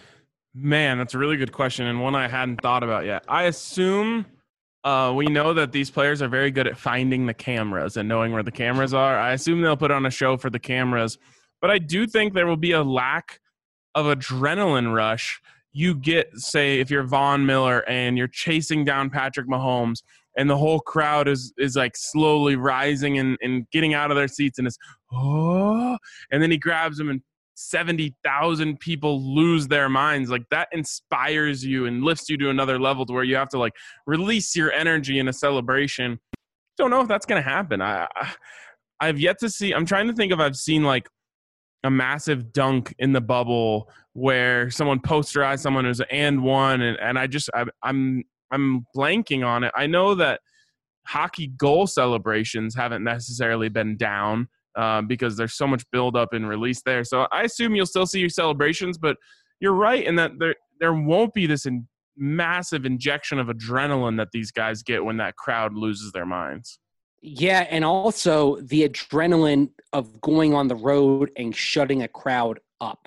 Speaker 1: Man, that's a really good question, and one I hadn't thought about yet. I assume uh, we know that these players are very good at finding the cameras and knowing where the cameras are. I assume they'll put on a show for the cameras, but I do think there will be a lack of adrenaline rush. You get, say, if you're Von Miller and you're chasing down Patrick Mahomes and the whole crowd is is like slowly rising and, and getting out of their seats and it's, oh, and then he grabs him and seventy thousand people lose their minds. Like that inspires you and lifts you to another level to where you have to like release your energy in a celebration. Don't know if that's going to happen. I, I, I've yet to see, I'm trying to think if I've seen like a massive dunk in the bubble where someone posterized someone who's and one. And, and I just, I, I'm, I'm blanking on it. I know that hockey goal celebrations haven't necessarily been down uh, because there's so much buildup and release there. So I assume you'll still see your celebrations, but you're right in that there, there won't be this in, massive injection of adrenaline that these guys get when that crowd loses their minds.
Speaker 3: Yeah, and also the adrenaline of going on the road and shutting a crowd up.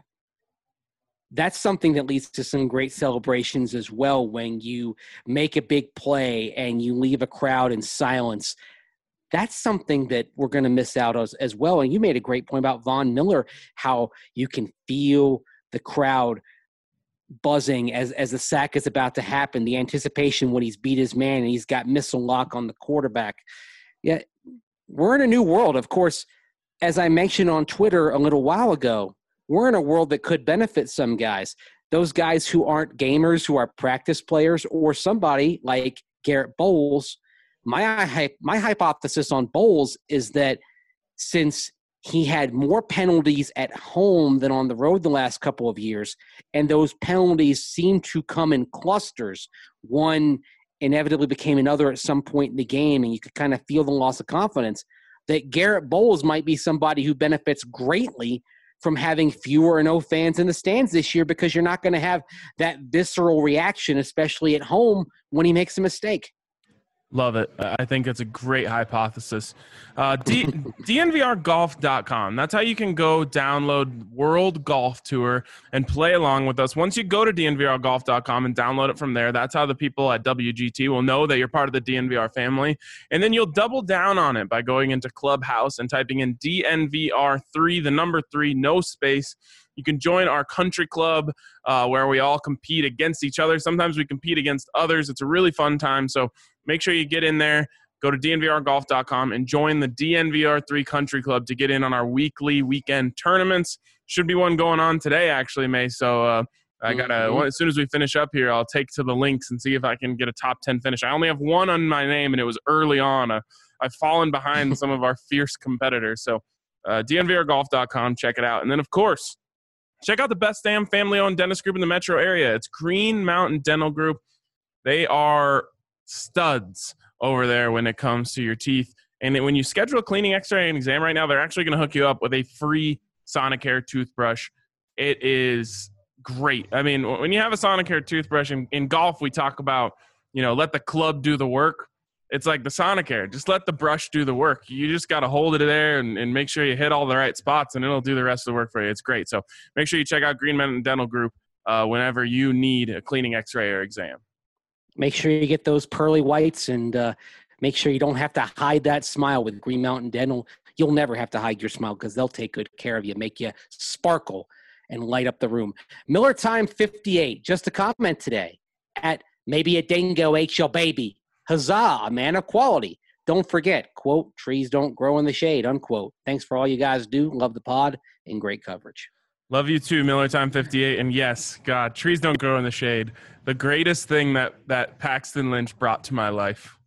Speaker 3: That's something that leads to some great celebrations as well when you make a big play and you leave a crowd in silence. That's something that we're going to miss out as, as well. And you made a great point about Von Miller, how you can feel the crowd buzzing as, as the sack is about to happen, the anticipation when he's beat his man and he's got missile lock on the quarterback. Yeah, we're in a new world. Of course, as I mentioned on Twitter a little while ago, we're in a world that could benefit some guys. Those guys who aren't gamers, who are practice players, or somebody like Garrett Bowles. My, my hypothesis on Bowles is that since he had more penalties at home than on the road the last couple of years, and those penalties seem to come in clusters, one inevitably became another at some point in the game, and you could kind of feel the loss of confidence, that Garrett Bowles might be somebody who benefits greatly from having fewer or no fans in the stands this year, because you're not going to have that visceral reaction, especially at home, when he makes a mistake.
Speaker 1: Love it. I think it's a great hypothesis. Uh, D- D N V R golf dot com. That's how you can go download World Golf Tour and play along with us. Once you go to D N V R golf dot com and download it from there, that's how the people at W G T will know that you're part of the D N V R family. And then you'll double down on it by going into Clubhouse and typing in D N V R three, the number three, no space. You can join our country club uh, where we all compete against each other. Sometimes we compete against others. It's a really fun time. So make sure you get in there, go to D N V R golf dot com and join the D N V R three Country Club to get in on our weekly weekend tournaments. Should be one going on today, actually, May. So uh, I got to, mm-hmm. as soon as we finish up here, I'll take to the links and see if I can get a top ten finish. I only have one on my name, and it was early on. Uh, I've fallen behind some of our fierce competitors. So uh, D N V R golf dot com, check it out. And then, of course, check out the best damn family-owned dentist group in the metro area. It's Green Mountain Dental Group. They are studs over there when it comes to your teeth. And when you schedule a cleaning, x-ray, and exam right now, they're actually going to hook you up with a free Sonicare toothbrush. It is great. I mean, when you have a Sonicare toothbrush, in, in golf, we talk about, you know, let the club do the work. It's like the Sonicare. Just let the brush do the work. You just got to hold it there and, and make sure you hit all the right spots, and it'll do the rest of the work for you. It's great. So make sure you check out Green Mountain Dental Group uh, whenever you need a cleaning, x-ray, or exam.
Speaker 3: Make sure you get those pearly whites, and uh, make sure you don't have to hide that smile with Green Mountain Dental. You'll never have to hide your smile because they'll take good care of you, make you sparkle and light up the room. Miller Time fifty-eight, just a comment today at maybe a dingo ate your baby. Huzzah, a man of quality. Don't forget, quote, trees don't grow in the shade, unquote. Thanks for all you guys do. Love the pod and great coverage.
Speaker 1: Love you too, Miller Time fifty-eight. And yes, God, trees don't grow in the shade. The greatest thing that, that Paxton Lynch brought to my life.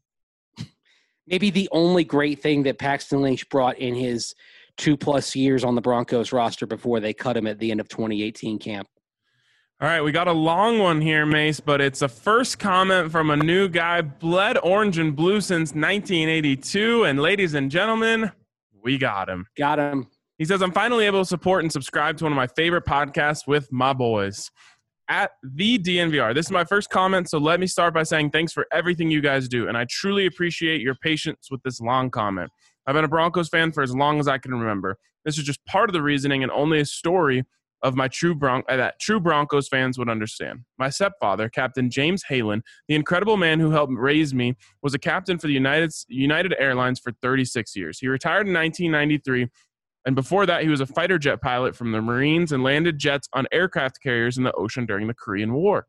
Speaker 3: Maybe the only great thing that Paxton Lynch brought in his two-plus years on the Broncos roster before they cut him at the end of twenty eighteen camp.
Speaker 1: All right, we got a long one here, Mace, but it's a first comment from a new guy, bled orange and blue since nineteen eighty-two. And ladies and gentlemen, we got him.
Speaker 3: Got him.
Speaker 1: He says, I'm finally able to support and subscribe to one of my favorite podcasts with my boys at the D N V R. This is my first comment, so let me start by saying thanks for everything you guys do. And I truly appreciate your patience with this long comment. I've been a Broncos fan for as long as I can remember. This is just part of the reasoning and only a story of my true Bron- that true Broncos fans would understand. My stepfather, Captain James Halen, the incredible man who helped raise me, was a captain for the United United Airlines for thirty-six years. He retired in nineteen ninety-three, and before that, he was a fighter jet pilot from the Marines and landed jets on aircraft carriers in the ocean during the Korean War.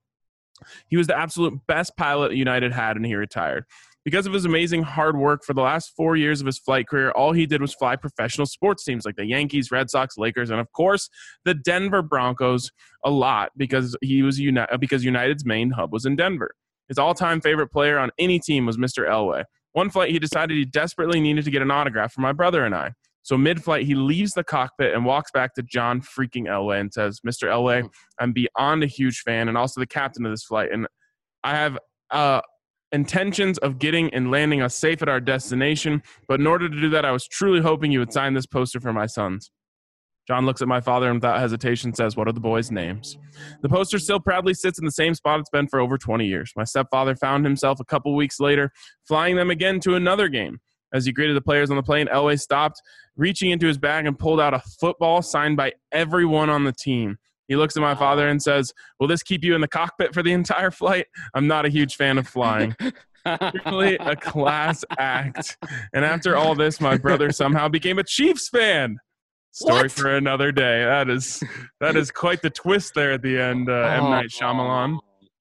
Speaker 1: He was the absolute best pilot United had, and he retired. Because of his amazing hard work for the last four years of his flight career, all he did was fly professional sports teams like the Yankees, Red Sox, Lakers, and of course the Denver Broncos a lot because he was uni- because United's main hub was in Denver. His all-time favorite player on any team was Mister Elway. One flight, he decided he desperately needed to get an autograph for my brother and I. So mid-flight, he leaves the cockpit and walks back to John freaking Elway and says, Mister Elway, I'm beyond a huge fan and also the captain of this flight, and I have uh, intentions of getting and landing us safe at our destination, but in order to do that, I was truly hoping you would sign this poster for my sons. John looks at my father and without hesitation says, what are the boys' names? The poster still proudly sits in the same spot it's been for over twenty years. My stepfather found himself a couple weeks later flying them again to another game. As he greeted the players on the plane, Elway stopped, reaching into his bag and pulled out a football signed by everyone on the team. He looks at my father and says, will this keep you in the cockpit for the entire flight? I'm not a huge fan of flying. Truly a class act. And after all this, my brother somehow became a Chiefs fan. Story
Speaker 3: What?
Speaker 1: for another day. That is that is quite the twist there at the end, uh, M. Night Shyamalan.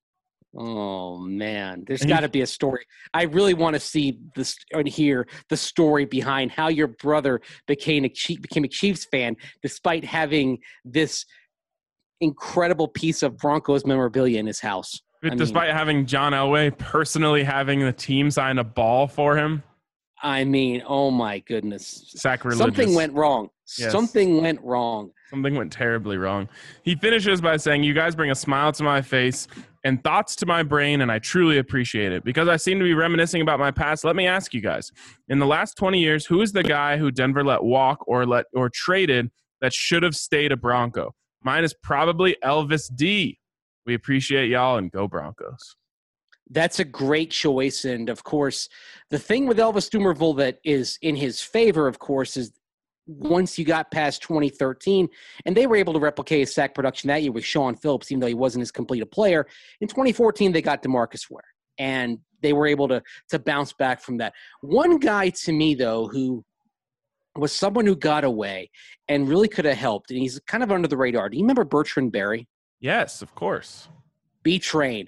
Speaker 3: Oh man, there's
Speaker 1: And he-
Speaker 3: got to be a story. I really want to see this and hear the story behind how your brother became a Chief, became a Chiefs fan despite having this incredible piece of Broncos memorabilia in his house. I
Speaker 1: Despite
Speaker 3: mean,
Speaker 1: having John Elway personally having the team sign a ball for him.
Speaker 3: I mean, oh my goodness,
Speaker 1: Sacrilegious.
Speaker 3: something went wrong.
Speaker 1: Yes.
Speaker 3: Something went wrong.
Speaker 1: Something went terribly wrong. He finishes by saying, you guys bring a smile to my face and thoughts to my brain, and I truly appreciate it. Because I seem to be reminiscing about my past, let me ask you guys. In the last twenty years, who is the guy who Denver let walk or let or traded that should have stayed a Bronco? Mine is probably Elvis D. We appreciate y'all, and go Broncos.
Speaker 3: That's a great choice. And, of course, the thing with Elvis Dumervil that is in his favor, of course, is once you got past twenty thirteen, and they were able to replicate his sack production that year with Sean Phillips, even though he wasn't as complete a player. In twenty fourteen, they got DeMarcus Ware, and they were able to, to bounce back from that. One guy to me, though, who was someone who got away and really could have helped, and he's kind of under the radar. Do you remember Bertrand Berry?
Speaker 1: Yes, of course.
Speaker 3: B-Train.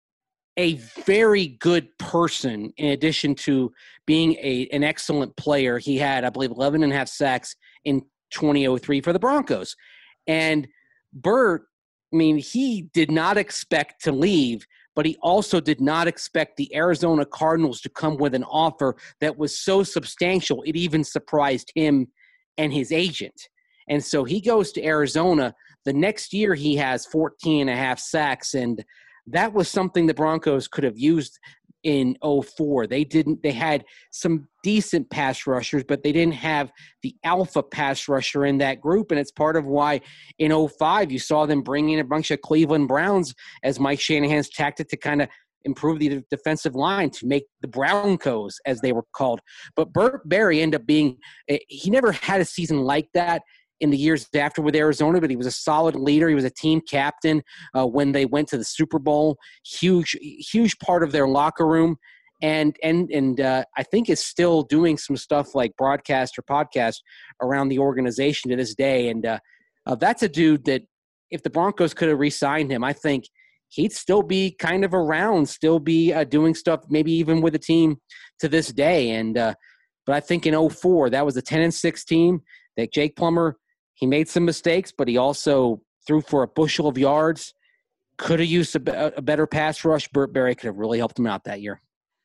Speaker 3: A very good person in addition to being a an excellent player. He had, I believe, eleven and a half sacks in twenty oh three for the Broncos. And Bert, I mean, he did not expect to leave, but he also did not expect the Arizona Cardinals to come with an offer that was so substantial it even surprised him and his agent. And so he goes to Arizona. The next year he has fourteen and a half sacks, and that was something the Broncos could have used in oh four. They didn't. They had some decent pass rushers, but they didn't have the alpha pass rusher in that group, and it's part of why in oh five you saw them bring in a bunch of Cleveland Browns as Mike Shanahan's tactic to kind of improve the defensive line, to make the Broncos, as they were called. But Burt Berry ended up being – he never had a season like that in the years after with Arizona, but he was a solid leader. He was a team captain uh, when they went to the Super Bowl. Huge, huge part of their locker room, and and and uh, I think is still doing some stuff like broadcast or podcast around the organization to this day. And uh, uh, that's a dude that if the Broncos could have re-signed him, I think he'd still be kind of around, still be uh, doing stuff, maybe even with the team to this day. And uh, but I think in oh four, that was a ten and six team that Jake Plummer. He made some mistakes, but he also threw for a bushel of yards. Could have used a, a better pass rush. Burt Berry could have really helped him out that year.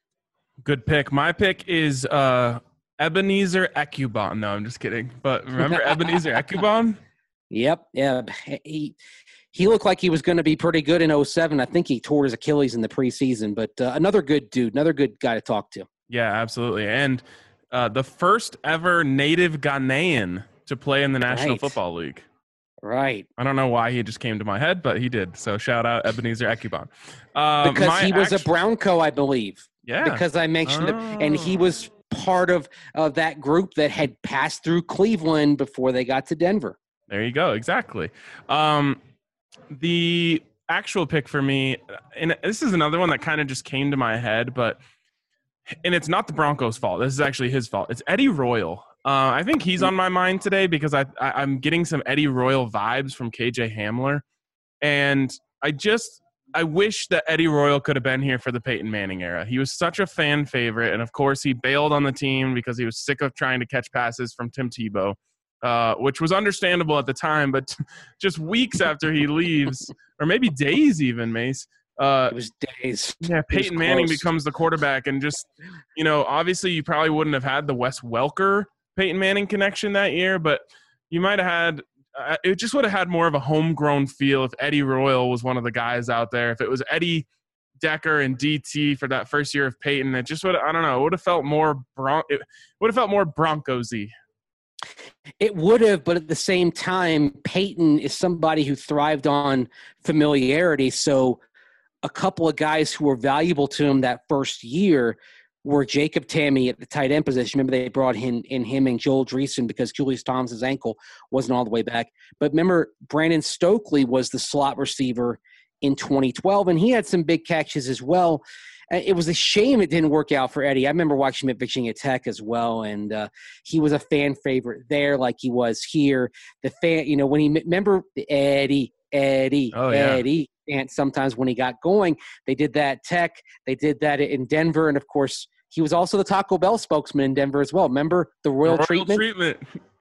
Speaker 1: Good pick. My pick is uh, Ebenezer Ekubon. No, I'm just kidding. But remember Ebenezer Ekubon?
Speaker 3: Yep. Yeah. He he looked like he was going to be pretty good in oh seven. I think he tore his Achilles in the preseason, but uh, another good dude, another good guy to talk to.
Speaker 1: Yeah, absolutely. And uh, the first ever native Ghanaian to play in the National
Speaker 3: Right.
Speaker 1: Football League.
Speaker 3: Right.
Speaker 1: I don't know why he just came to my head, but he did. So shout out Ebenezer Ekubon. Uh,
Speaker 3: Because
Speaker 1: my
Speaker 3: he was
Speaker 1: actu-
Speaker 3: a Bronco, I believe.
Speaker 1: Yeah.
Speaker 3: Because I mentioned him. And he
Speaker 1: Oh.
Speaker 3: was part of uh, that group that had passed through Cleveland before they got to Denver.
Speaker 1: There you go. Exactly. Um, the actual pick for me, and this is another one that kind of just came to my head, but and it's not the Broncos' fault. This is actually his fault. It's Eddie Royal. Uh, I think he's on my mind today because I, I I'm getting some Eddie Royal vibes from K J Hamler, and I just I wish that Eddie Royal could have been here for the Peyton Manning era. He was such a fan favorite, and of course he bailed on the team because he was sick of trying to catch passes from Tim Tebow, uh, which was understandable at the time. But just weeks after he leaves, or maybe days even, Mace. Uh,
Speaker 3: It was days.
Speaker 1: yeah,
Speaker 3: was
Speaker 1: Peyton Manning
Speaker 3: close.
Speaker 1: becomes the quarterback, and just, you know, obviously you probably wouldn't have had the Wes Welker Peyton Manning connection that year, but you might have had uh, it just would have had more of a homegrown feel if Eddie Royal was one of the guys out there. If it was Eddie Decker and D T for that first year of Peyton, it just would I don't know, it would have felt more Bron- it would have felt more Broncos-y.
Speaker 3: It would have, but at the same time, Peyton is somebody who thrived on familiarity. So a couple of guys who were valuable to him that first year were Jacob Tamme at the tight end position. Remember, they brought in, in him and Joel Dreesen because Julius Thomas's ankle wasn't all the way back. But remember, Brandon Stokely was the slot receiver in twenty twelve, and he had some big catches as well. Uh, It was a shame it didn't work out for Eddie. I remember watching him at Virginia Tech as well, and uh, he was a fan favorite there like he was here. The fan, you know, when he – remember Eddie, Eddie,
Speaker 1: Oh, yeah.
Speaker 3: Eddie. And sometimes when he got going, they did that Tech. They did that in Denver. And, of course, he was also the Taco Bell spokesman in Denver as well. Remember the royal,
Speaker 1: Royal
Speaker 3: treatment?
Speaker 1: treatment.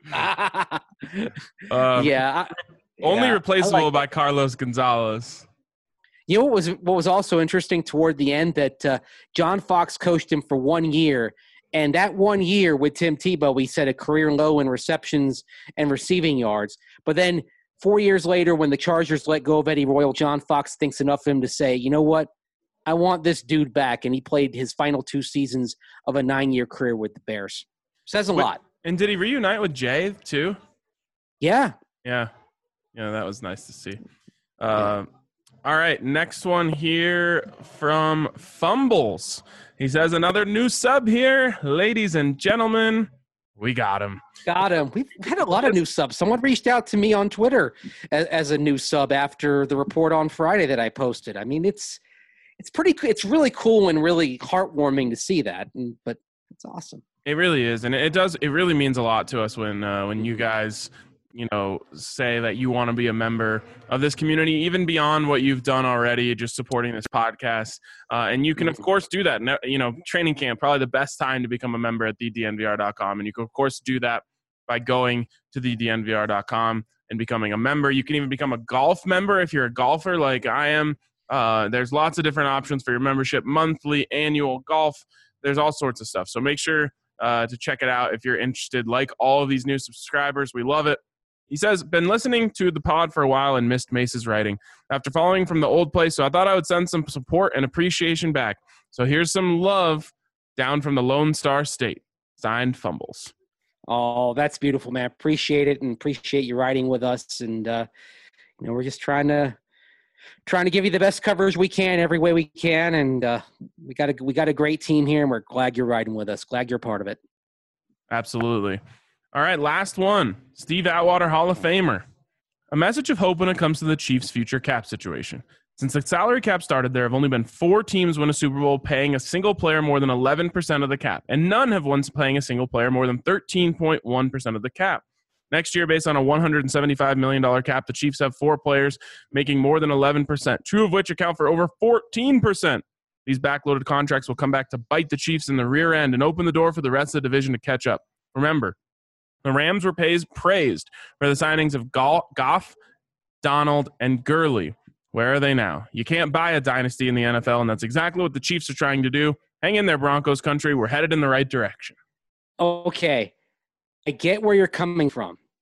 Speaker 1: Um,
Speaker 3: yeah. I-
Speaker 1: Only
Speaker 3: yeah,
Speaker 1: replaceable
Speaker 3: I like
Speaker 1: by Carlos Gonzalez.
Speaker 3: You know what was what was also interesting toward the end that uh, John Fox coached him for one year, and that one year with Tim Tebow, he set a career low in receptions and receiving yards. But then four years later, when the Chargers let go of Eddie Royal, John Fox thinks enough of him to say, you know what, I want this dude back, and he played his final two seasons of a nine-year career with the Bears. Says a
Speaker 1: Wait,
Speaker 3: lot.
Speaker 1: And did he reunite with Jay too?
Speaker 3: Yeah.
Speaker 1: Yeah. Yeah, that was nice to see. Uh, all right, next one here from Fumbles. He says, another new sub here. Ladies and gentlemen, we got him.
Speaker 3: Got him. We've had a lot of new subs. Someone reached out to me on Twitter as, as a new sub after the report on Friday that I posted. I mean, it's it's pretty. It's really cool and really heartwarming to see that. And, but it's awesome.
Speaker 1: It really is, and it does. It really means a lot to us when uh, when you guys, you know, say that you want to be a member of this community, even beyond what you've done already, just supporting this podcast. Uh, and you can, of course, do that. No- You know, training camp, probably the best time to become a member at the d n v r dot com. And you can, of course, do that by going to the d n v r dot com and becoming a member. You can even become a golf member if you're a golfer like I am. Uh, there's lots of different options for your membership, monthly, annual, golf. There's all sorts of stuff. So make sure uh, to check it out if you're interested. Like all of these new subscribers, we love it. He says, been listening to the pod for a while and missed Mace's writing after following from the old place, so I thought I would send some support and appreciation back. So here's some love down from the Lone Star State. Signed, Fumbles.
Speaker 3: Oh, that's beautiful, man. Appreciate it and appreciate you riding with us. And uh, you know, we're just trying to trying to give you the best coverage we can every way we can. And uh, we got a we got a great team here, and we're glad you're riding with us. Glad you're part of it.
Speaker 1: Absolutely. All right, last one. Steve Atwater, Hall of Famer. A message of hope when it comes to the Chiefs' future cap situation. Since the salary cap started, there have only been four teams win a Super Bowl paying a single player more than eleven percent of the cap, and none have won paying a single player more than thirteen point one percent of the cap. Next year, based on a one hundred seventy-five million dollars cap, the Chiefs have four players making more than eleven percent, two of which account for over fourteen percent. These backloaded contracts will come back to bite the Chiefs in the rear end and open the door for the rest of the division to catch up. Remember, the Rams were pays, praised for the signings of Goff, Donald, and Gurley. Where are they now? You can't buy a dynasty in the N F L, and that's exactly what the Chiefs are trying to do. Hang in there, Broncos country. We're headed in the right direction.
Speaker 3: Okay. I get where you're coming from,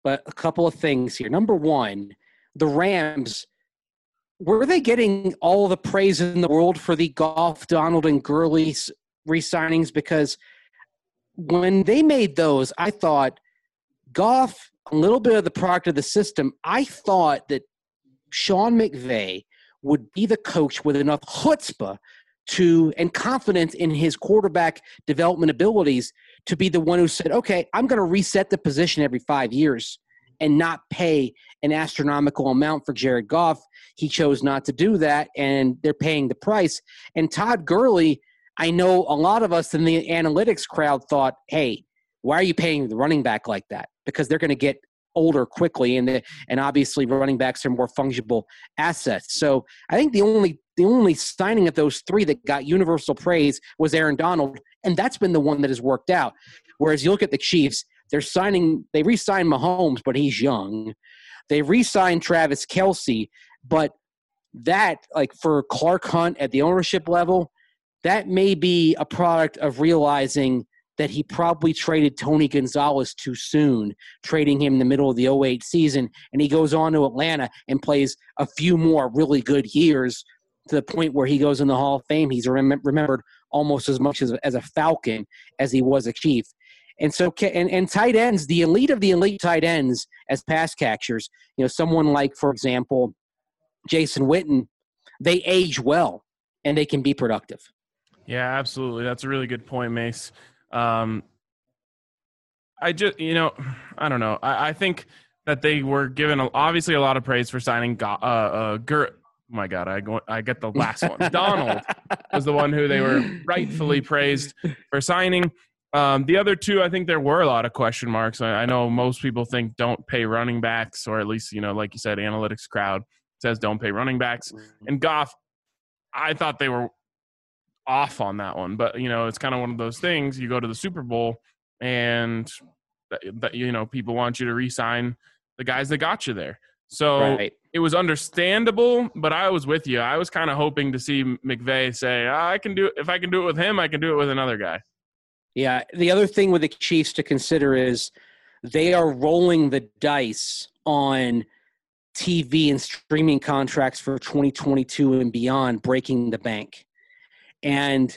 Speaker 3: but a couple of things here. Number one, the Rams, were they getting all the praise in the world for the Goff, Donald, and Gurley re-signings? Because when they made those, I thought Goff, a little bit of the product of the system. I thought that Sean McVay would be the coach with enough chutzpah to and confidence in his quarterback development abilities to be the one who said, okay, I'm going to reset the position every five years and not pay an astronomical amount for Jared Goff. He chose not to do that, and they're paying the price. And Todd Gurley, I know a lot of us in the analytics crowd thought, hey, why are you paying the running back like that? Because they're going to get older quickly, and the, and obviously running backs are more fungible assets. So I think the only the only signing of those three that got universal praise was Aaron Donald, and that's been the one that has worked out. Whereas you look at the Chiefs, they're signing they re-signed Mahomes, but he's young. They re-signed Travis Kelce, but that, like for Clark Hunt at the ownership level, that may be a product of realizing that he probably traded Tony Gonzalez too soon, trading him in the middle of the oh eight season, and he goes on to Atlanta and plays a few more really good years to the point where he goes in the Hall of Fame. He's rem- remembered almost as much as, as a Falcon as he was a Chief. And so, and, and tight ends, the elite of the elite tight ends as pass catchers, you know, someone like, for example, Jason Witten, they age well and they can be productive.
Speaker 1: Yeah, absolutely. That's a really good point, Mace. Um, I just, you know, I don't know. I, I think that they were given a, obviously a lot of praise for signing. Go, uh, uh, Gur- oh my God, I go, I get the last one. Donald was the one who they were rightfully praised for signing. Um, the other two, I think there were a lot of question marks. I, I know most people think don't pay running backs, or at least, you know, like you said, analytics crowd says don't pay running backs. And Goff, I thought they were off on that one, but you know, it's kind of one of those things. You go to the Super Bowl and that, that, you know, people want you to re-sign the guys that got you there. So right. It was understandable, but I was with you. I was kind of hoping to see McVay say, oh, I can do it. If I can do it with him, I can do it with another guy.
Speaker 3: Yeah. The other thing with the Chiefs to consider is they are rolling the dice on T V and streaming contracts for twenty twenty-two and beyond, breaking the bank. And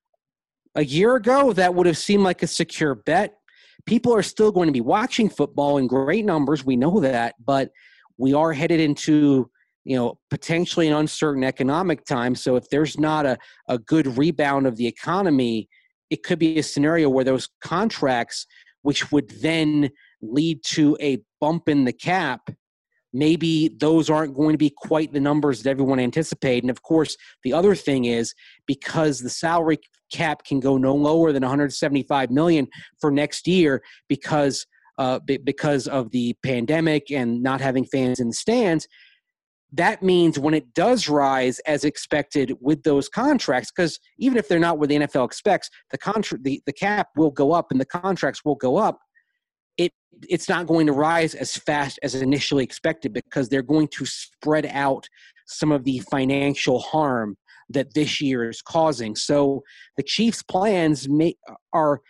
Speaker 3: a year ago, that would have seemed like a secure bet. People are still going to be watching football in great numbers. We know that, but we are headed into, you know, potentially an uncertain economic time. So if there's not a, a good rebound of the economy, it could be a scenario where those contracts, which would then lead to a bump in the cap, maybe those aren't going to be quite the numbers that everyone anticipated. And of course, the other thing is, because the salary cap can go no lower than one hundred seventy-five million dollars for next year because uh, b- because of the pandemic and not having fans in the stands, that means when it does rise as expected with those contracts, because even if they're not what the N F L expects, the contract, the, the cap will go up and the contracts will go up. It it's not going to rise as fast as initially expected because they're going to spread out some of the financial harm that this year is causing. So the Chiefs' plans may, are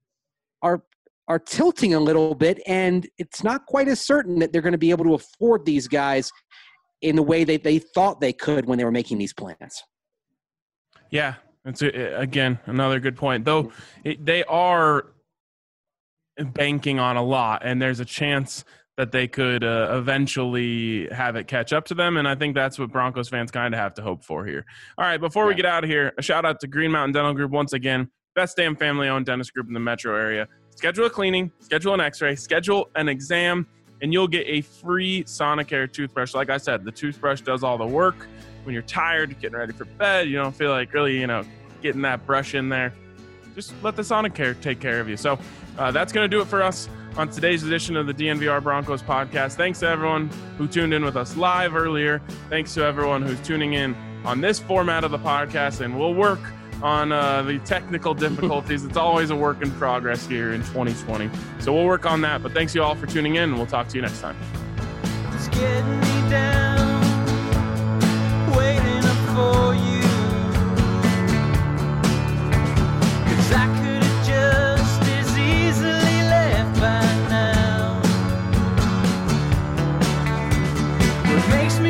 Speaker 3: are are tilting a little bit, and it's not quite as certain that they're going to be able to afford these guys in the way that they thought they could when they were making these plans.
Speaker 1: Yeah, it's a, again another good point. Though it, they are banking on a lot, and there's a chance that they could uh, eventually have it catch up to them, and I think that's what Broncos fans kind of have to hope for here. All right, before yeah. we get out of here, a shout out to Green Mountain Dental Group once again, best damn family-owned dentist group in the metro area. Schedule a cleaning, schedule an x-ray, schedule an exam, and you'll get a free Sonicare toothbrush. Like I said, the toothbrush does all the work. When you're tired, getting ready for bed, you don't feel like really, you know, getting that brush in there, just let the Sonicare take care of you. So uh, that's going to do it for us on today's edition of the D N V R Broncos podcast. Thanks to everyone who tuned in with us live earlier. Thanks to everyone who's tuning in on this format of the podcast, and we'll work on uh, the technical difficulties. It's always a work in progress here in twenty twenty. So we'll work on that. But thanks you all for tuning in, and we'll talk to you next time.
Speaker 2: It's getting me down, waiting up for you. 'Cause I could have just as easily left by now. makes me